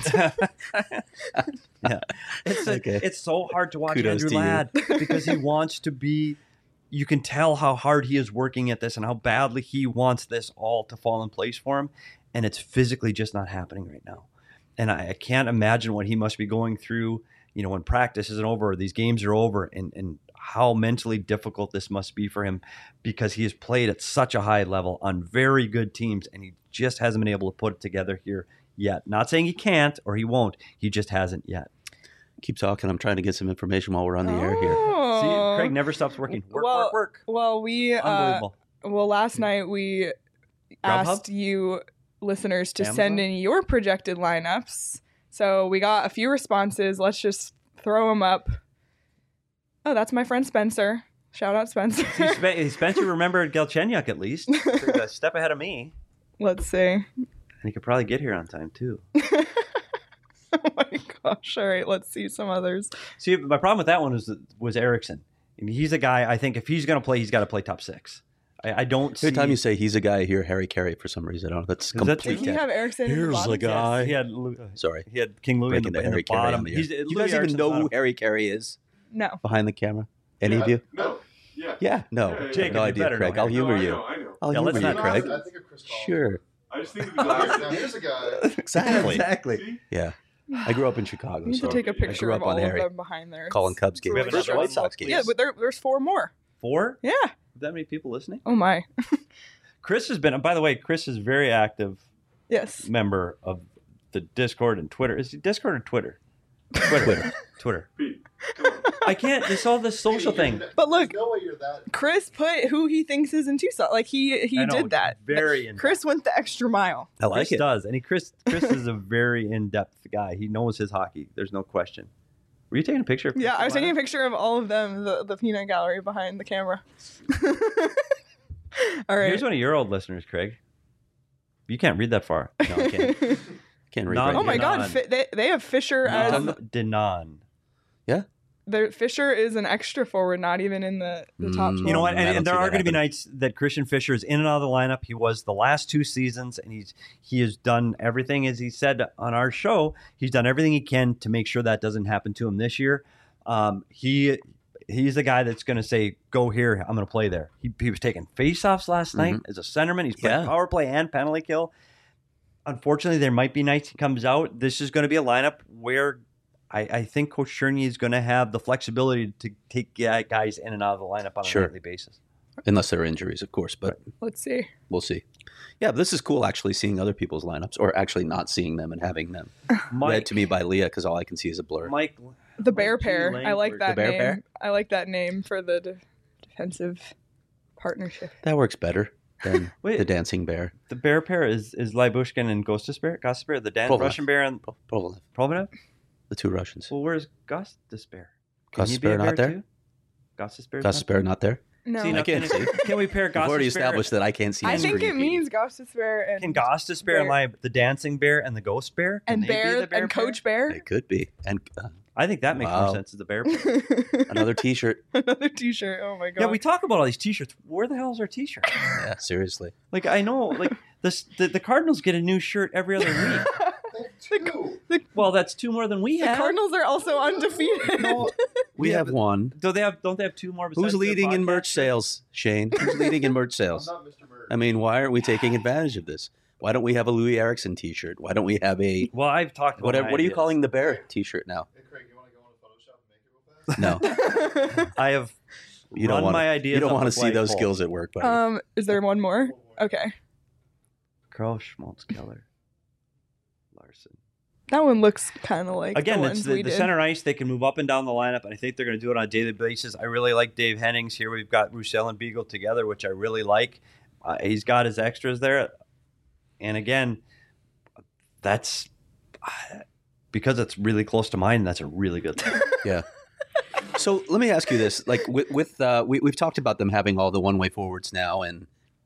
Yeah, it's a, Okay. it's so hard to watch Kudos Andrew to you. Ladd because he wants to be. You can tell how hard he is working at this and how badly he wants this all to fall in place for him, and it's physically just not happening right now. And I, I can't imagine what he must be going through. You know, when practice isn't over, or these games are over, and and how mentally difficult this must be for him because he has played at such a high level on very good teams, and he just hasn't been able to put it together here yet. Not saying he can't or he won't. He just hasn't yet. Keep talking. I'm trying to get some information while we're on the air here. Oh. See, Craig never stops working. Work, well, work, work. Well, we uh, Unbelievable. well last night we Grubhub? asked you listeners to Amazon? send in your projected lineups. So we got a few responses. Let's just throw them up. Oh, that's my friend Spencer. Shout out Spencer. See, Spe- Spencer remembered Galchenyuk at least. He's a step ahead of me. Let's see. And he could probably get here on time, too. Oh my gosh. All right, let's see some others. See, my problem with that one was was Erickson. I mean, he's a guy, I think if he's going to play, he's got to play top six. I, I don't see... Every time you say he's a guy, I hear Harry Carey for some reason. I don't know. That's Is that- complete. Didn't he have Erickson? in the Here's bottom? the guy. He had, Lou- Sorry. he had King Louis in Breaking the, the in Harry the Carey bottom. on the air. He's, Do you Louis guys even Erickson's know not who a- Harry Carey is No. behind the camera? Any Yeah, of you? No. Yeah. Yeah. No. Yeah, yeah, I Jacob, have no you idea, better Craig. know I'll Harry. humor No, I you. know, I know. I'll Yeah, let's humor you, not- Craig. I think of Chris Paul. Sure. I just think of the glasses. Now, here's a guy. Exactly. Exactly. See? Yeah. I grew up in Chicago, We need so to take a I grew picture up of on all Harry. of them behind there. calling It's- Cubs it's games. really First White Sox Yeah, games. but there, there's four more. Four? Yeah. That many people listening? Oh my. Chris has been, by the way, Chris is a very active Yes. member of the Discord and Twitter. Is it Discord or Twitter? Twitter. Twitter. Twitter. Pete, come on. I can't, it's all this social thing. But look, There's no way you're that. Chris put who he thinks is in Tucson. Like he he I know, did that. very in-depth. Chris went the extra mile. I like Chris it. does, and he Chris Chris is a very in-depth guy. He knows his hockey. There's no question. Were you taking a picture? Of Yeah, Chris I was taking a Lineup? picture of all of them, the, the peanut gallery behind the camera. All right. Here's one of your old listeners, Craig. You can't read that far. No, I can't. Can't read. No, right Oh my here. God, Denon. Fi- they they have Fisher as Denon. Denon. their Fisher is an extra forward, not even in the, the top Mm. twelve. You know what? I And, don't and there see are that going to be happening. nights that Christian Fisher is in and out of the lineup. He was the last two seasons, and he's he has done everything, as he said on our show. He's done everything he can to make sure that doesn't happen to him this year. Um, he he's the guy that's going to say, "Go here, I'm going to play there." He, he was taking faceoffs last night as a centerman. He's playing Yeah. power play and penalty kill. Unfortunately, there might be nights he comes out. This is going to be a lineup where I, I think Coach Cherney is going to have the flexibility to take guy- guys in and out of the lineup on a Sure. nightly basis. Unless there are injuries, of course, but Let's see. we'll see. Yeah, but this is cool actually seeing other people's lineups or actually not seeing them and having them read to me by Leah because all I can see is a blur. Mike, The bear Gee, pair. I like Langford. that The bear name. pair? I like that name for the de- defensive partnership. That works better than Wait. the dancing bear. the bear pair is is Lybushkin and Gostisbear, Gostisbear, the Dan Provolone. Russian bear and Pro- Provolone, Provenov. the two Russians. Well, where's Gostisbear? Can he be Gostisbear a not bear there? too? Gostisbear. Gus Bear not there? No. See, now, I can't can, see. can we pair We've already Gostisbear? established that I can't see. I the think screen, it Petey. means Gostisbear and Can Gostisbear and Bear. like the dancing bear and the ghost bear Can and they be Bear the bear and pair? Coach Bear. It could be. And uh, I think that makes Wow. more sense as the bear pair. another T-shirt. Another T-shirt. Oh my God. Yeah, we talk about all these T-shirts. Where the hell is our T-shirt? Yeah, seriously. Like I know, like this, the, the Cardinals get a new shirt every other week. Two. Well, that's two more than we The have. Cardinals are also undefeated. We Yeah, have but- one. Do they have? Don't they have two more? besides Who's their leading in podcast merch shirts? sales, Shane? Who's leading in merch I'm sales? not Mister Bird. I mean, why aren't we taking advantage of this? Why don't we have a Louis Erickson T-shirt? Why don't we have a Well, I've talked about whatever? my What are you ideas. calling the bear T-shirt now? Hey, Craig, you want to go on Photoshop and make it real fast? No, I have you don't run want my ideas. You don't up want to the see those flagpole. skills at work, buddy. um, is there one more? Okay. Crow, Schmaltz, Keller, Larson. That one looks kind of like Again, the it's ones the, we the did. center ice. They can move up and down the lineup, and I think they're going to do it on a daily basis. I really like Dave Hennings here. We've got Roussel and Beagle together, which I really like. Uh, he's got his extras there. And again, that's because it's really close to mine. That's a really good thing. Yeah. So let me ask you this: like with, with uh, we, we've talked about them having all the one-way forwards now, and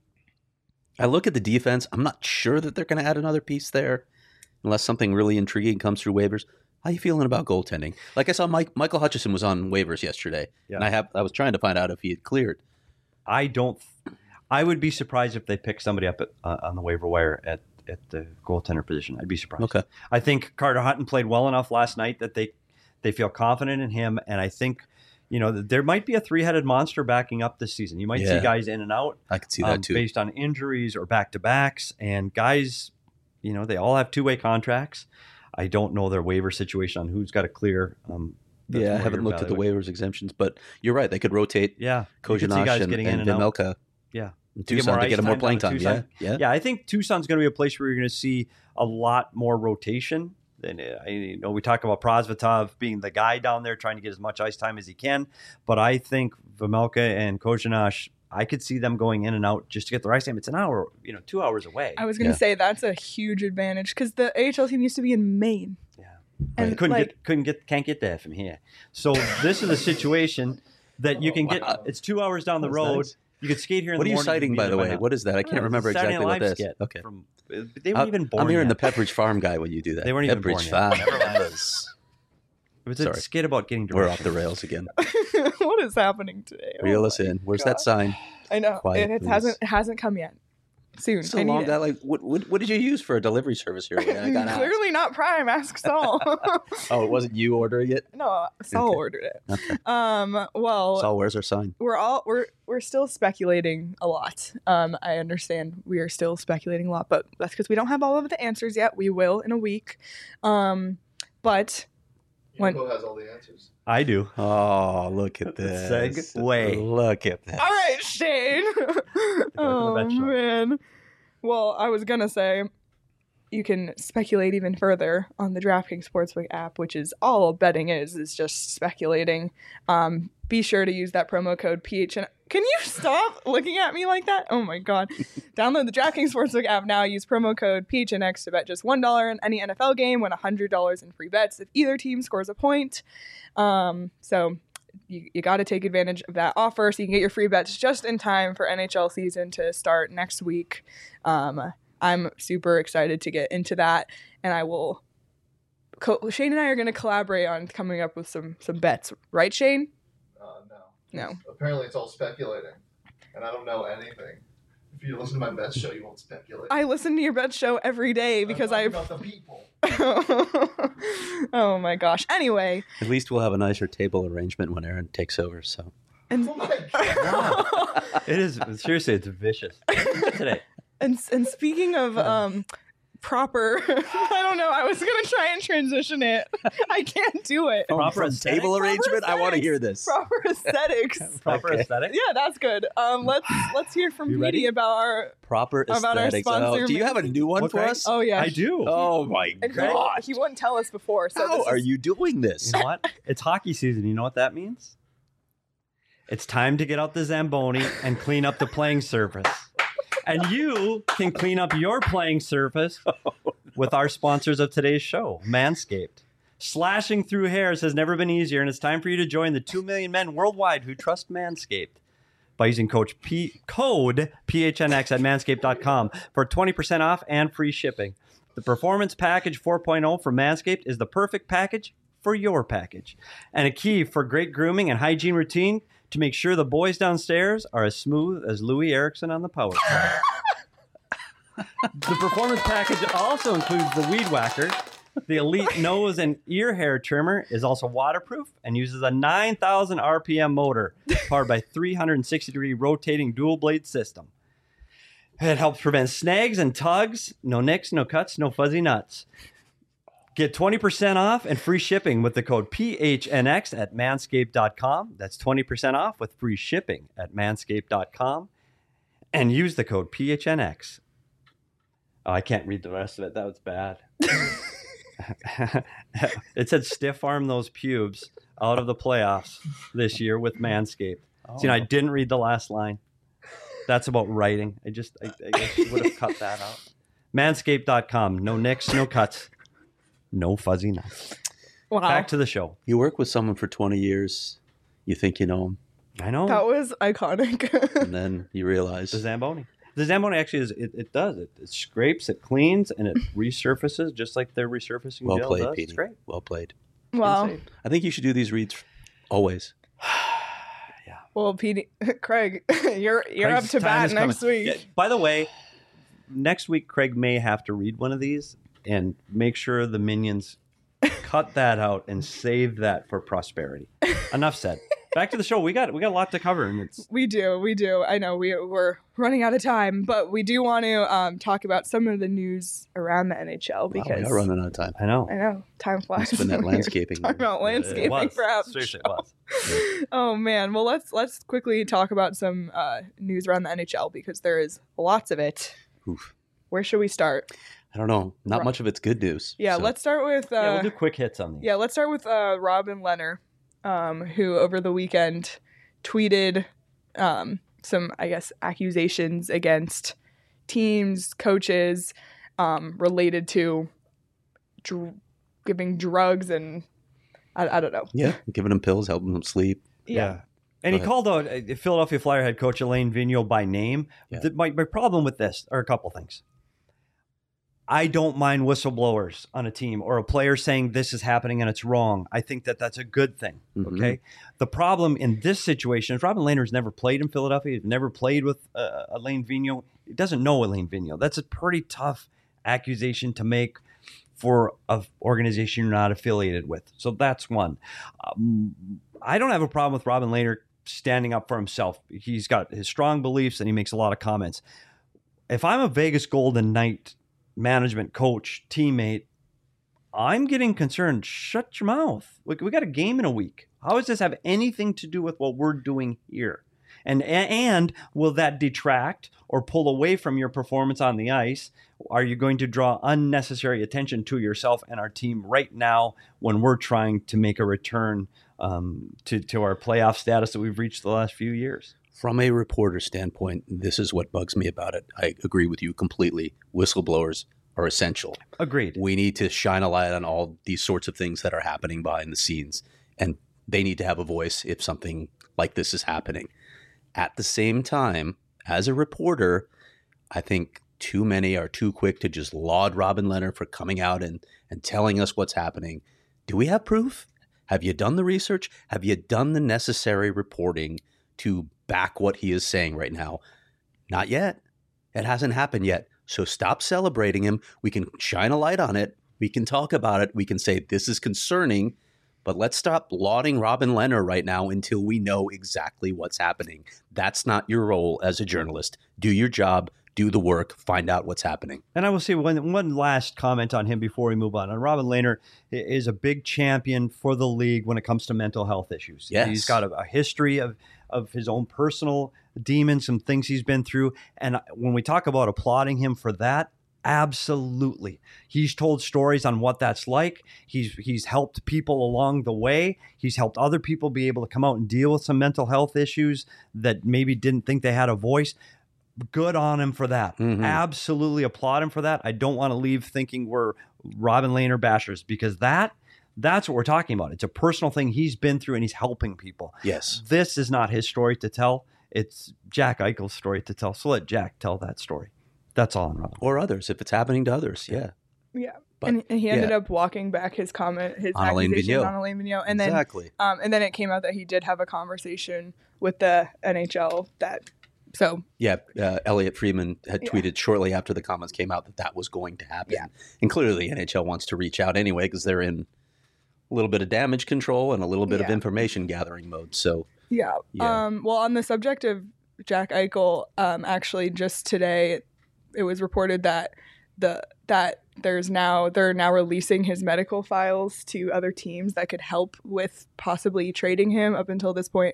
I look at the defense. I'm not sure that they're going to add another piece there, unless something really intriguing comes through waivers. How you feeling about goaltending? Like I saw Mike Michael Hutchison was on waivers yesterday, Yeah. and I have I was trying to find out if he had cleared. I don't. I would be surprised if they pick somebody up at, uh, on the waiver wire at, at the goaltender position. I'd be surprised. Okay. I think Carter Hutton played well enough last night that they they feel confident in him, and I think you know there might be a three-headed monster backing up this season. You might Yeah. see guys in and out I could see that um, too. based on injuries or back-to-backs, and guys, you know, they all have two-way contracts. I don't know their waiver situation on who's got to clear. Um, that's Yeah, I more haven't your looked at the evaluation. waivers exemptions, but you're right. They could rotate Yeah, you could see Kozhinash guys and, getting and in and out. Vejmelka Yeah. and To get Tucson more to ice get him more time playing down time. to Yeah, Tucson. yeah. Yeah, I think Tucson's going to be a place where you're going to see a lot more rotation. Than uh, I you know we talk about Prosvetov being the guy down there trying to get as much ice time as he can, but I think Vejmelka and Kozhinash, I could see them going in and out just to get the ice time. It's an hour, you know, two hours away. I was gonna Yeah. say that's a huge advantage because the A H L team used to be in Maine. Yeah. And couldn't like, get couldn't get can't get there from here. So this is a situation that you can get. Wow. It's two hours down the That's road. nice. You could skate here. In What the are you morning, citing, be by there the way? now. What is that? I can't Uh, remember Saturday exactly Night what Live that is. skit Okay. From, they weren't Uh, even born I'm hearing yet. the Pepperidge Farm guy when you do that. They weren't even born Pepperidge yet. Farm. Never mind. Yes. It was Sorry. a skit about getting We're directions. off the rails again. what is happening today? Oh Reel my us in. Where's God. that sign? I know Quiet, it, it please. hasn't it hasn't come yet. Soon. So I need long it. that like what, what what did you use for a delivery service here? I got asked. Clearly not Prime. Ask Saul. Oh, it wasn't you ordering it? no, Saul Okay. ordered it. Okay. Um. Well, Saul, where's our sign? we're all we're we're still speculating a lot. Um, I understand we are still speculating a lot, but that's because we don't have all of the answers yet. We will in a week. Um, but When- Yoko has all the answers. I do. Oh, look at this. Segue. Look at that. all right, Shane. oh bet show. man. Well, I was gonna say you can speculate even further on the DraftKings Sportsbook app, which is all betting is is just speculating. Um, be sure to use that promo code P H N. Can you stop looking at me like that? Oh my god! Download the DraftKings Sportsbook app now. Use promo code P H N X to bet just one dollar in any N F L game. Win one hundred dollars in free bets if either team scores a point. Um, so you, you got to take advantage of that offer so you can get your free bets just in time for N H L season to start next week. Um, I'm super excited to get into that, and I will. Co- Shane and I are going to collaborate on coming up with some some bets, right, Shane? Uh, no. No. Apparently, it's all speculating, and I don't know anything. If you listen to my best show, you won't speculate. I listen to your bet show every day I'm because talking I. about the people. Oh my gosh! Anyway, At least we'll have a nicer table arrangement when Aaron takes over. So and Oh my god! It is seriously, it's vicious today. and and speaking of um proper, I don't know. I was gonna try and transition it. I can't do it. from, Proper from aesthetic? table arrangement, I want to aesthetics. hear this. Proper aesthetics. Proper Okay. aesthetic. Yeah, that's good. Um, let's let's hear from You Petey ready? about our. Proper About our aesthetics. sponsor, Oh, do you have a new one What for kind? us? Oh yeah. I do. Oh my And he, god! he wouldn't tell us before. So How this are is- you doing this? You know what? It's hockey season. You know what that means? It's time to get out the Zamboni and clean up the playing surface. And you can clean up your playing surface with our sponsors of today's show, Manscaped. Slashing through hairs has never been easier, and it's time for you to join the two million men worldwide who trust Manscaped by using coach P- code P H N X at manscaped dot com for twenty percent off and free shipping. The Performance Package four point oh from Manscaped is the perfect package for your package, and a key for great grooming and hygiene routine to make sure the boys downstairs are as smooth as Louis Erickson on the power play. The Performance Package also includes the Weed Whacker. The Elite Nose and Ear Hair Trimmer is also waterproof and uses a nine thousand R P M motor powered by three hundred sixty degree rotating dual blade system. It helps prevent snags and tugs. No nicks, no cuts, no fuzzy nuts. Get twenty percent off and free shipping with the code P H N X at manscaped dot com. That's twenty percent off with free shipping at manscaped dot com. And use the code P H N X. Oh, I can't read the rest of it. That was bad. It said stiff arm those pubes out of the playoffs this year with Manscaped. Oh. So, you know, I didn't read the last line. That's about writing. I just, I, I guess would have cut that out. Manscaped dot com. No nicks, no cuts, no fuzzy nuts. Wow. Back to the show. You work with someone for twenty years. You think you know him, I know. That was iconic. and then you realize The Zamboni. The Zamboni actually is, it, it does. It, it scrapes, it cleans, and it resurfaces just like their resurfacing well gel played, does. Petey. It's great. Well played. Wow. Insane. I think you should do these reads always. Well, Pete, Craig, you're you're Craig's up to time bat is next coming. week. Yeah, by the way, next week Craig may have to read one of these and make sure the minions cut that out and save that for prosperity. Enough said. Back to the show. We got we got a lot to cover, and it's We do, we do. I know we we're running out of time, but we do want to um, talk about some of the news around the N H L Wow, we because are running out of time. I know. I know time flies. It's been that when you're landscaping. Talking about It landscaping was. perhaps. Seriously, it was. Oh man. Well, let's let's quickly talk about some uh, news around the N H L because there is lots of it. Oof. Where should we start? I don't know. Not Right. much of it's good news. Yeah, so- let's start with uh, yeah, we'll do quick hits on these. Yeah, let's start with uh, Robin Leonard, um, who over the weekend tweeted um, some, I guess, accusations against teams, coaches, um, related to dr- giving drugs and I, I don't know. Yeah, giving them pills, helping them sleep. Yeah. And he Go called out uh, Philadelphia Flyer head coach Elaine Vigneault by name. Yeah. The- my, my problem with this are a couple things. I don't mind whistleblowers on a team or a player saying this is happening and it's wrong. I think that that's a good thing. Mhm. Okay. The problem in this situation is Robin Lehner's never played in Philadelphia. He's never played with uh, Elaine Vigneault. He doesn't know Elaine Vigneault. That's a pretty tough accusation to make for an organization you're not affiliated with. So that's one. Um, I don't have a problem with Robin Lehner standing up for himself. He's got his strong beliefs and he makes a lot of comments. If I'm a Vegas Golden Knight management coach, teammate, I'm getting concerned. Shut your mouth. We, we got a game in a week. How does this have anything to do with what we're doing here? And and will that detract or pull away from your performance on the ice? Are you going to draw unnecessary attention to yourself and our team right now when we're trying to make a return um, to, to our playoff status that we've reached the last few years? From a reporter standpoint, this is what bugs me about it. I agree with you completely. Whistleblowers are essential. Agreed. We need to shine a light on all these sorts of things that are happening behind the scenes, and they need to have a voice if something like this is happening. At the same time, as a reporter, I think too many are too quick to just laud Robin Lehner for coming out and, and telling us what's happening. Do we have proof? Have you done the research? Have you done the necessary reporting to back what he is saying right now? Not yet. It hasn't happened yet. So stop celebrating him. We can shine a light on it. We can talk about it. We can say this is concerning, but let's stop lauding Robin Lehner right now until we know exactly what's happening. That's not your role as a journalist. Do your job, do the work, find out what's happening. And I will say one, one last comment on him before we move on. And Robin Lehner is a big champion for the league when it comes to mental health issues. Yes. He's got a, a history of, of his own personal demons, some things he's been through. And when we talk about applauding him for that, absolutely. He's told stories on what that's like. He's he's helped people along the way. He's helped other people be able to come out and deal with some mental health issues that maybe didn't think they had a voice. Good on him for that. Mhm. Absolutely applaud him for that. I don't want to leave thinking we're Robin Lehner bashers because that that's what we're talking about. It's a personal thing he's been through and he's helping people. Yes. This is not his story to tell. It's Jack Eichel's story to tell. So let Jack tell that story. That's all on Robin. Or others, if it's happening to others. Yeah. Yeah. But, and, and he ended yeah. up walking back his comment, his On Elaine accusation Vigneault. on Elaine Vigneault. And then exactly. Um, and then it came out that he did have a conversation with the N H L that, so Yeah, uh, Elliot Friedman had Yeah. tweeted shortly after the comments came out that that was going to happen. Yeah. And clearly the N H L wants to reach out anyway because they're in a little bit of damage control and a little bit of Yeah. information gathering mode. So, yeah. Yeah. Um, well, on the subject of Jack Eichel, um, actually just today it was reported that the that there's now they're now releasing his medical files to other teams that could help with possibly trading him. Up until this point,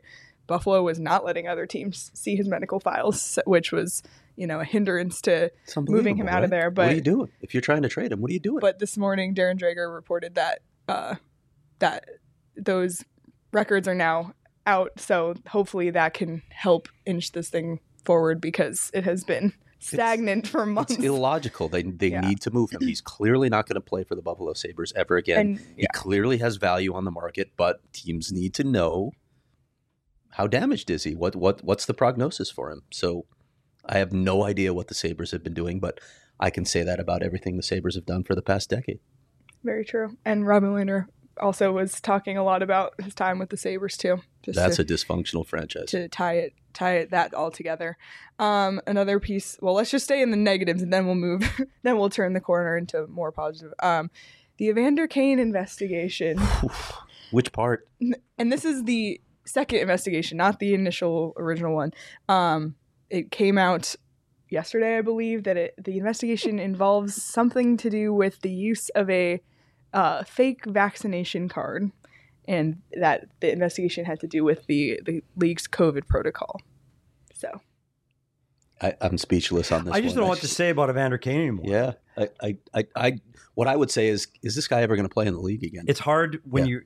Buffalo was not letting other teams see his medical files, which was, you know, a hindrance to It's unbelievable, moving him out of right? there. what But are you doing? If you're trying to trade him, what are you doing? but this morning, Darren Drager reported that uh, that those records are now out. So hopefully that can help inch this thing forward because it has been stagnant for months. It's illogical. They they Yeah. need to move him. He's clearly not going to play for the Buffalo Sabres ever again. And He yeah, clearly has value on the market, but teams need to know how damaged is he? What what what's the prognosis for him? So I have no idea what the Sabres have been doing, but I can say that about everything the Sabres have done for the past decade. very true. And Robin Lehner also was talking a lot about his time with the Sabres too. Just That's to, a dysfunctional franchise. to tie it tie it that all together. Um, another piece. Well, let's just stay in the negatives, and then we'll move. Then we'll turn the corner into more positive. Um, the Evander Kane investigation, Which part? and this is the second investigation, not the initial original one. Um, it came out yesterday, I believe, that it, the investigation involves something to do with the use of a uh, fake vaccination card, and that the investigation had to do with the, the league's COVID protocol. So, I, I'm speechless on this. I just one. don't know what to say about Evander Kane anymore. Yeah, I, I, I, I, what I would say is, is this guy ever going to play in the league again? It's hard when Yeah. you,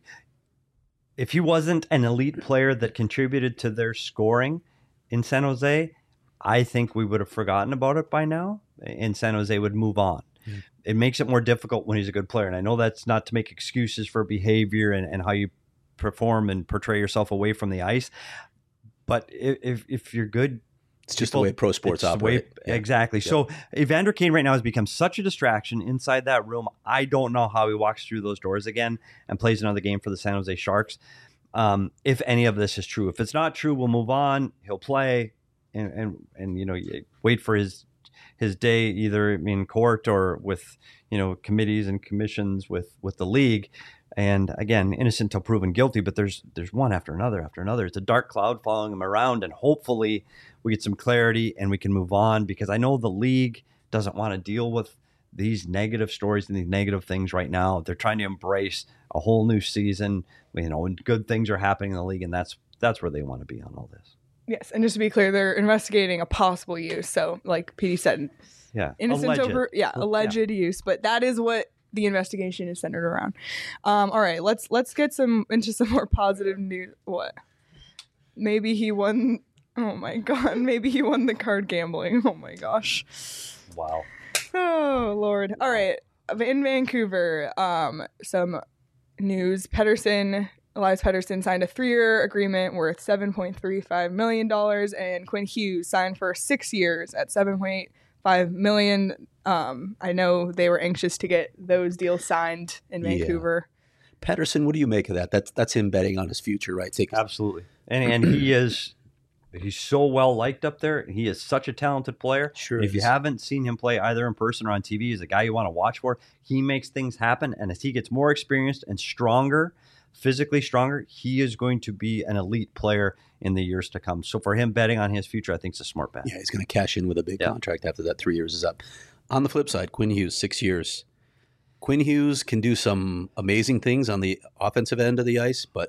if he wasn't an elite player that contributed to their scoring in San Jose, I think we would have forgotten about it by now, and San Jose would move on. Mm. It makes it more difficult when he's a good player. And I know that's not to make excuses for behavior and, and how you perform and portray yourself away from the ice. But if, if, if you're good, It's just people- the way pro sports it's the way- operate. Yeah. Exactly. Yeah. So Evander Kane right now has become such a distraction inside that room. I don't know how he walks through those doors again and plays another game for the San Jose Sharks. Um, if any of this is true, if it's not true, we'll move on. He'll play, and and and you know, you wait for his his day either in court or with you know committees and commissions with with the league. And again, innocent till proven guilty, but there's there's one after another after another. It's a dark cloud following him around, and hopefully we get some clarity and we can move on, because I know the league doesn't want to deal with these negative stories and these negative things right now. They're trying to embrace a whole new season, you know, and good things are happening in the league, and that's that's where they want to be on all this. yes, and just to be clear, they're investigating a possible use. So, like P D said, Yeah, innocent Alleged. over yeah Yeah. alleged use, but that is what the investigation is centered around. Um, all right, let's let's get some into some more positive news. What? Maybe he won. Oh my god! Maybe he won the card gambling. Oh my gosh. Wow. Oh Lord. All right. In Vancouver, um, some news. Pedersen, Elias Pedersen signed a three-year agreement worth seven point three five million dollars, and Quinn Hughes signed for six years at seven point five million dollars. Um, I know they were anxious to get those deals signed in Yeah. Vancouver. Pedersen, what do you make of that? That's that's him betting on his future, right? Take Absolutely. And and he is he's so well liked up there. He is such a talented player. Sure If you is. haven't seen him play either in person or on T V, he's a guy you want to watch for. He makes things happen, and as he gets more experienced and stronger, physically stronger, he is going to be an elite player in the years to come. So for him betting on his future, I think it's a smart bet. Yeah, he's going to cash in with a big Yeah. contract after that three years is up. On the flip side, Quinn Hughes, six years. Quinn Hughes can do some amazing things on the offensive end of the ice, but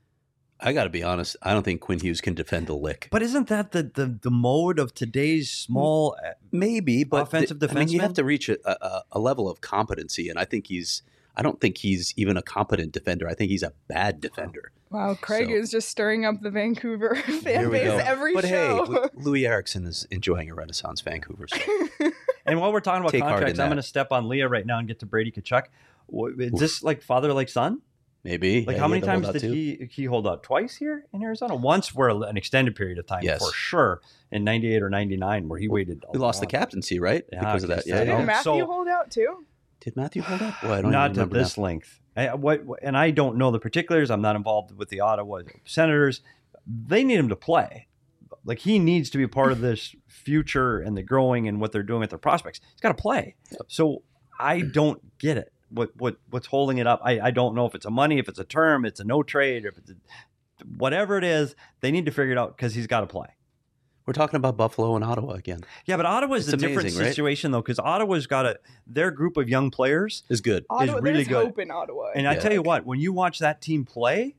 I got to be honest, I don't think Quinn Hughes can defend a lick. But isn't that the the, the mode of today's small? Maybe, but Offensive th- I mean, you defenseman? have to reach a, a, a level of competency, and I think he's. I don't think he's even a competent defender. I think he's a bad defender. Wow, Craig So- is just stirring up the Vancouver fan Here we base go. every but show. hey, Lu- Louis Erickson is enjoying a renaissance Vancouver. So. And while we're talking about Take heart contracts, in I'm that. going to step on Leah right now and get to Brady Tkachuk. Wha- Is this like father like son? Maybe. Like Yeah, how he many had to hold times out did too. he he hold out? Twice here in Arizona? Once for a- an extended period of time, Yes. for sure, in ninety-eight or ninety-nine, where he waited. a He lost the long- captaincy, right? Yeah, because of I that. guess Yeah. I I Didn't know. know. Matthew So- hold out too? Did Matthew hold up? Boy, I don't Not even to remember this now. length. I, what, and I don't know the particulars. I'm not involved with the Ottawa Senators. They need him to play. Like he needs to be part of this future and the growing and what they're doing with their prospects. He's got to play. So I don't get it. What what what's holding it up? I, I don't know if it's a money, if it's a term, it's a no trade, or if it's a, whatever it is. They need to figure it out because he's got to play. We're talking about Buffalo and Ottawa again. Yeah, but Ottawa's It's a different amazing, right? situation though, because Ottawa's got a their group of young players. Is good. Ottawa, really there's good. hope in Ottawa. And I Yeah. tell you what, when you watch that team play,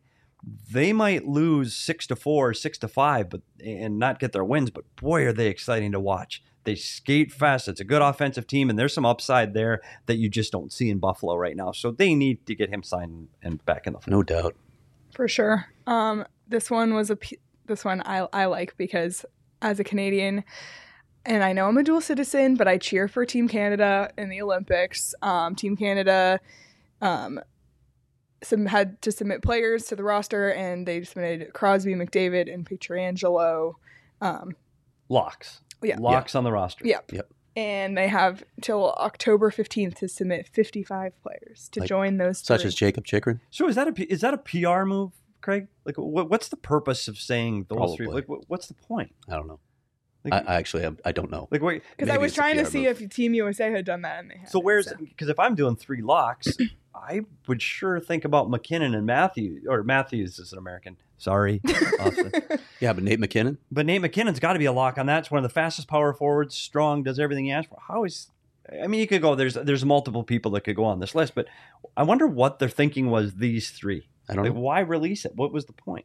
they might lose six to four, six to five, but and not get their wins. But boy, are they exciting to watch! They skate fast. It's a good offensive team, and there's some upside there that you just don't see in Buffalo right now. So they need to get him signed and back in the fold. No doubt. For sure. Um, this one was a p- this one I I like because as a Canadian, and I know I'm a dual citizen, but I cheer for Team Canada in the Olympics. Um, Team Canada um, some had to submit players to the roster, and they submitted Crosby, McDavid, and Pietrangelo. Um, Locks. Yeah. Locks on the roster. Yep. Yep. And they have till October fifteenth to submit fifty-five players to Like, join those Such three. as Jacob Chikrin. So is that a P- is that a P R move, Craig? Like, what, what's the purpose of saying those three? Probably. Like, what, what's the point? I don't know. Like, I, I actually I, I don't know. like wait. Because I Maybe was it's a trying to P R see move. if Team U S A had done that, and they had. So where's because if I'm doing three locks, I would sure think about McKinnon and Matthews, or Matthews is an American. Sorry, Austin. Yeah, but Nate McKinnon. But Nate McKinnon's got to be a lock on that. It's one of the fastest power forwards, strong, does everything he asks for. How is? I mean, you could go. There's there's multiple people that could go on this list, but I wonder what their thinking was. These three. I don't Like, know. why release it? What was the point?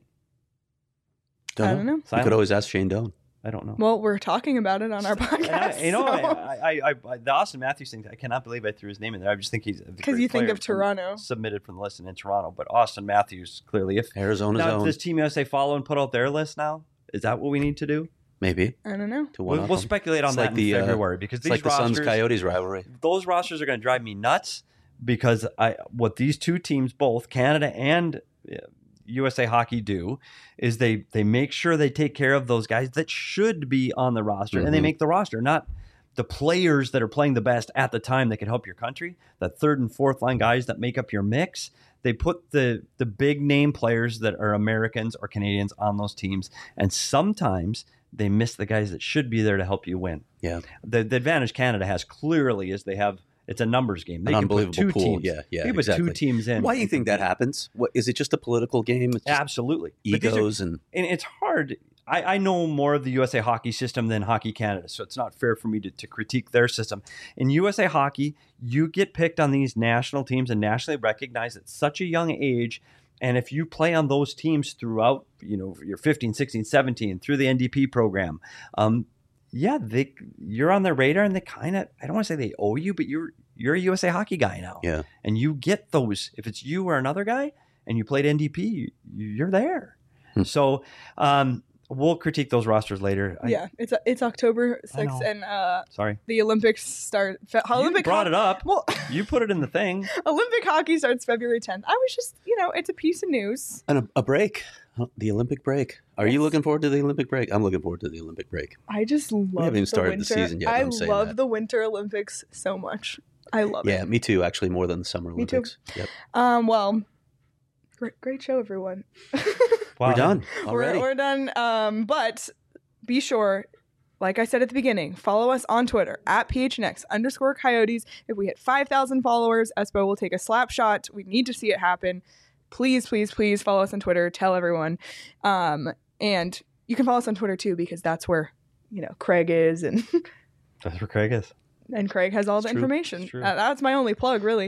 Don't I don't know. You Silence? could always ask Shane Doan. I don't know. Well, we're talking about it on our And I, podcast. you know, so- I, I, I, I, the Austin Matthews thing. I cannot believe I threw his name in there. I just think he's Because you think of Toronto. submitted from the list and in Toronto, but Austin Matthews clearly. If Arizona's now own. does Team U S A follow and put out their list now? Is that what we need to do? Maybe. I don't know. To one We'll, up we'll them. speculate on It's that like in the, uh, February because It's these like the rosters, Suns Coyotes rivalry. those rosters are going to drive me nuts because I what these two teams, both Canada and uh, U S A Hockey, do is they they make sure they take care of those guys that should be on the roster, and they Mhm. make the roster, not the players that are playing the best at the time that can help your country. The third and fourth line guys that make up your mix. They put the the big name players that are Americans or Canadians on those teams, and sometimes they miss the guys that should be there to help you win. Yeah. The the advantage Canada has clearly is they have it's a numbers game. They An can put unbelievable two pool. teams. Yeah, yeah, They put exactly. two teams in. Why do you think that happens? What is it? Just a political game? It's just Absolutely. But these are- egos and and it's hard. I, I know more of the U S A Hockey system than Hockey Canada, so it's not fair for me to, to critique their system. In U S A Hockey, you get picked on these national teams and nationally recognized at such a young age. And if you play on those teams throughout, you know, you're fifteen, sixteen, seventeen, through the N D P program, um, yeah, they you're on their radar, and they kind of, I don't want to say they owe you, but you're you're a U S A Hockey guy now. Yeah. And you get those. If it's you or another guy, and you played N D P, you, you're there. Hmm. So um, we'll critique those rosters later. I- yeah, it's it's October I sixth, know. and uh, Sorry. the Olympics start. Fe- Olympic you brought ho- it up. Well, You put it in the thing. Olympic hockey starts February tenth. I was just, you know, it's a piece of news. and a, a break. Huh, The Olympic break. Are you Yes. looking forward to the Olympic break? I'm looking forward to the Olympic break. I just love haven't even the started the winter. season yet, but I I'm saying love that. the Winter Olympics so much. I love Yeah, it. me too. Actually, more than the Summer Me too. Olympics. Yep. Um. Well, great, great show, everyone. Wow. We're done we're, already. we're done. Um. But be sure, like I said at the beginning, follow us on Twitter at P H N X underscore Coyotes. If we hit five thousand followers, Espo will take a slap shot. We need to see it happen. Please, please, please follow us on Twitter. Tell everyone. Um. And you can follow us on Twitter too, because that's where, you know, Craig is, and That's where Craig is. and Craig has all It's the true. information. It's true. Uh, that's my only plug, really.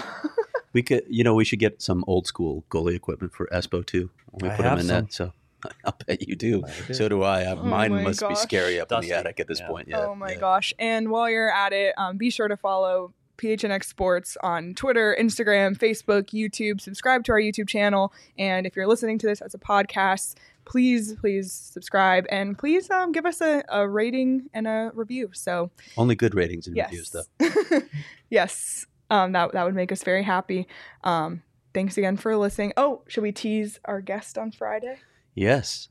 We could, you know, we should get some old school goalie equipment for Espo too. We I put him have in some. that, so I'll bet you do. I do. So do I. Uh, Oh Mine my must be gosh. scary up in Dusty. the attic at this Yeah. point. Yeah. Oh my yeah. gosh. And while you're at it, um, be sure to follow P H N X Sports on Twitter, Instagram, Facebook, YouTube. Subscribe to our YouTube channel. And if you're listening to this as a podcast, please, please subscribe. And please um, give us a, a rating and a review. So, Only good ratings and yes. reviews, though. yes. Um, that, that would make us very happy. Um, thanks again for listening. Oh, should we tease our guest on Friday? Yes.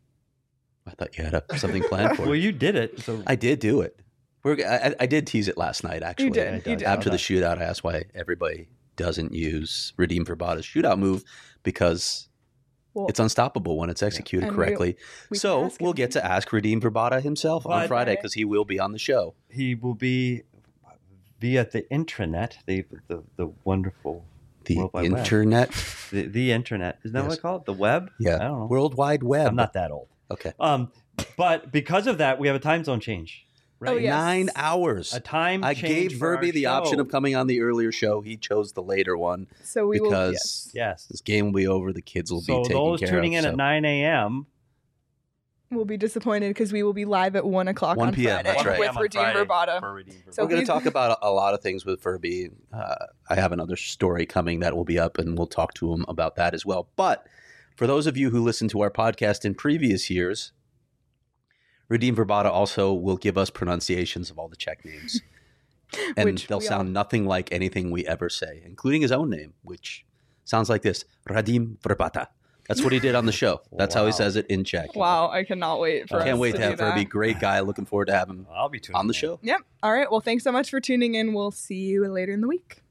I thought you had a, something planned for Well, it. you did it. So I did do it. We're, I, I did tease it last night, actually. did, I you did. After the Okay. shootout, I asked why everybody doesn't use Redeem Verbata's shootout move because Well, it's unstoppable when it's executed And we- correctly. we can So ask we'll him. get to ask Redeem Verbata himself on But- Friday because he will be on the show. he will be via the intranet, the the, the wonderful The World Wide Web. internet. the, the internet. Isn't that what Yes. I call it? The web? Yeah. I don't know. World Wide Web. I'm not that old. Okay. Um, but because of that, we have a time zone change. Oh, yes. Nine hours. A time I change gave for our Verby the option show. of coming on the earlier show. He chose the later one So we will. because Yes. Yes. this game will be over. The kids will So be taken those care tuning of. in so. at nine a.m. We'll be disappointed because we will be live at one o'clock one on p.m., Friday that's right. with Redeem Verbata. For Redeem So We're going to please- talk about a, a lot of things with Verby. Uh, I have another story coming that will be up, and we'll talk to him about that as well. But for those of you who listened to our podcast in previous years, Redeem Verbata also will give us pronunciations of all the Czech names. And Which they'll we sound all- nothing like anything we ever say, including his own name, which sounds like this, Radim Verbata. That's what he did on the show. That's how he Wow. says it in Czech. Wow, I cannot wait for I can't us wait to to do have that. Verby. Great guy. Looking forward to having him I'll be tuning on the in. show. Yep. All right. Well, thanks so much for tuning in. We'll see you later in the week.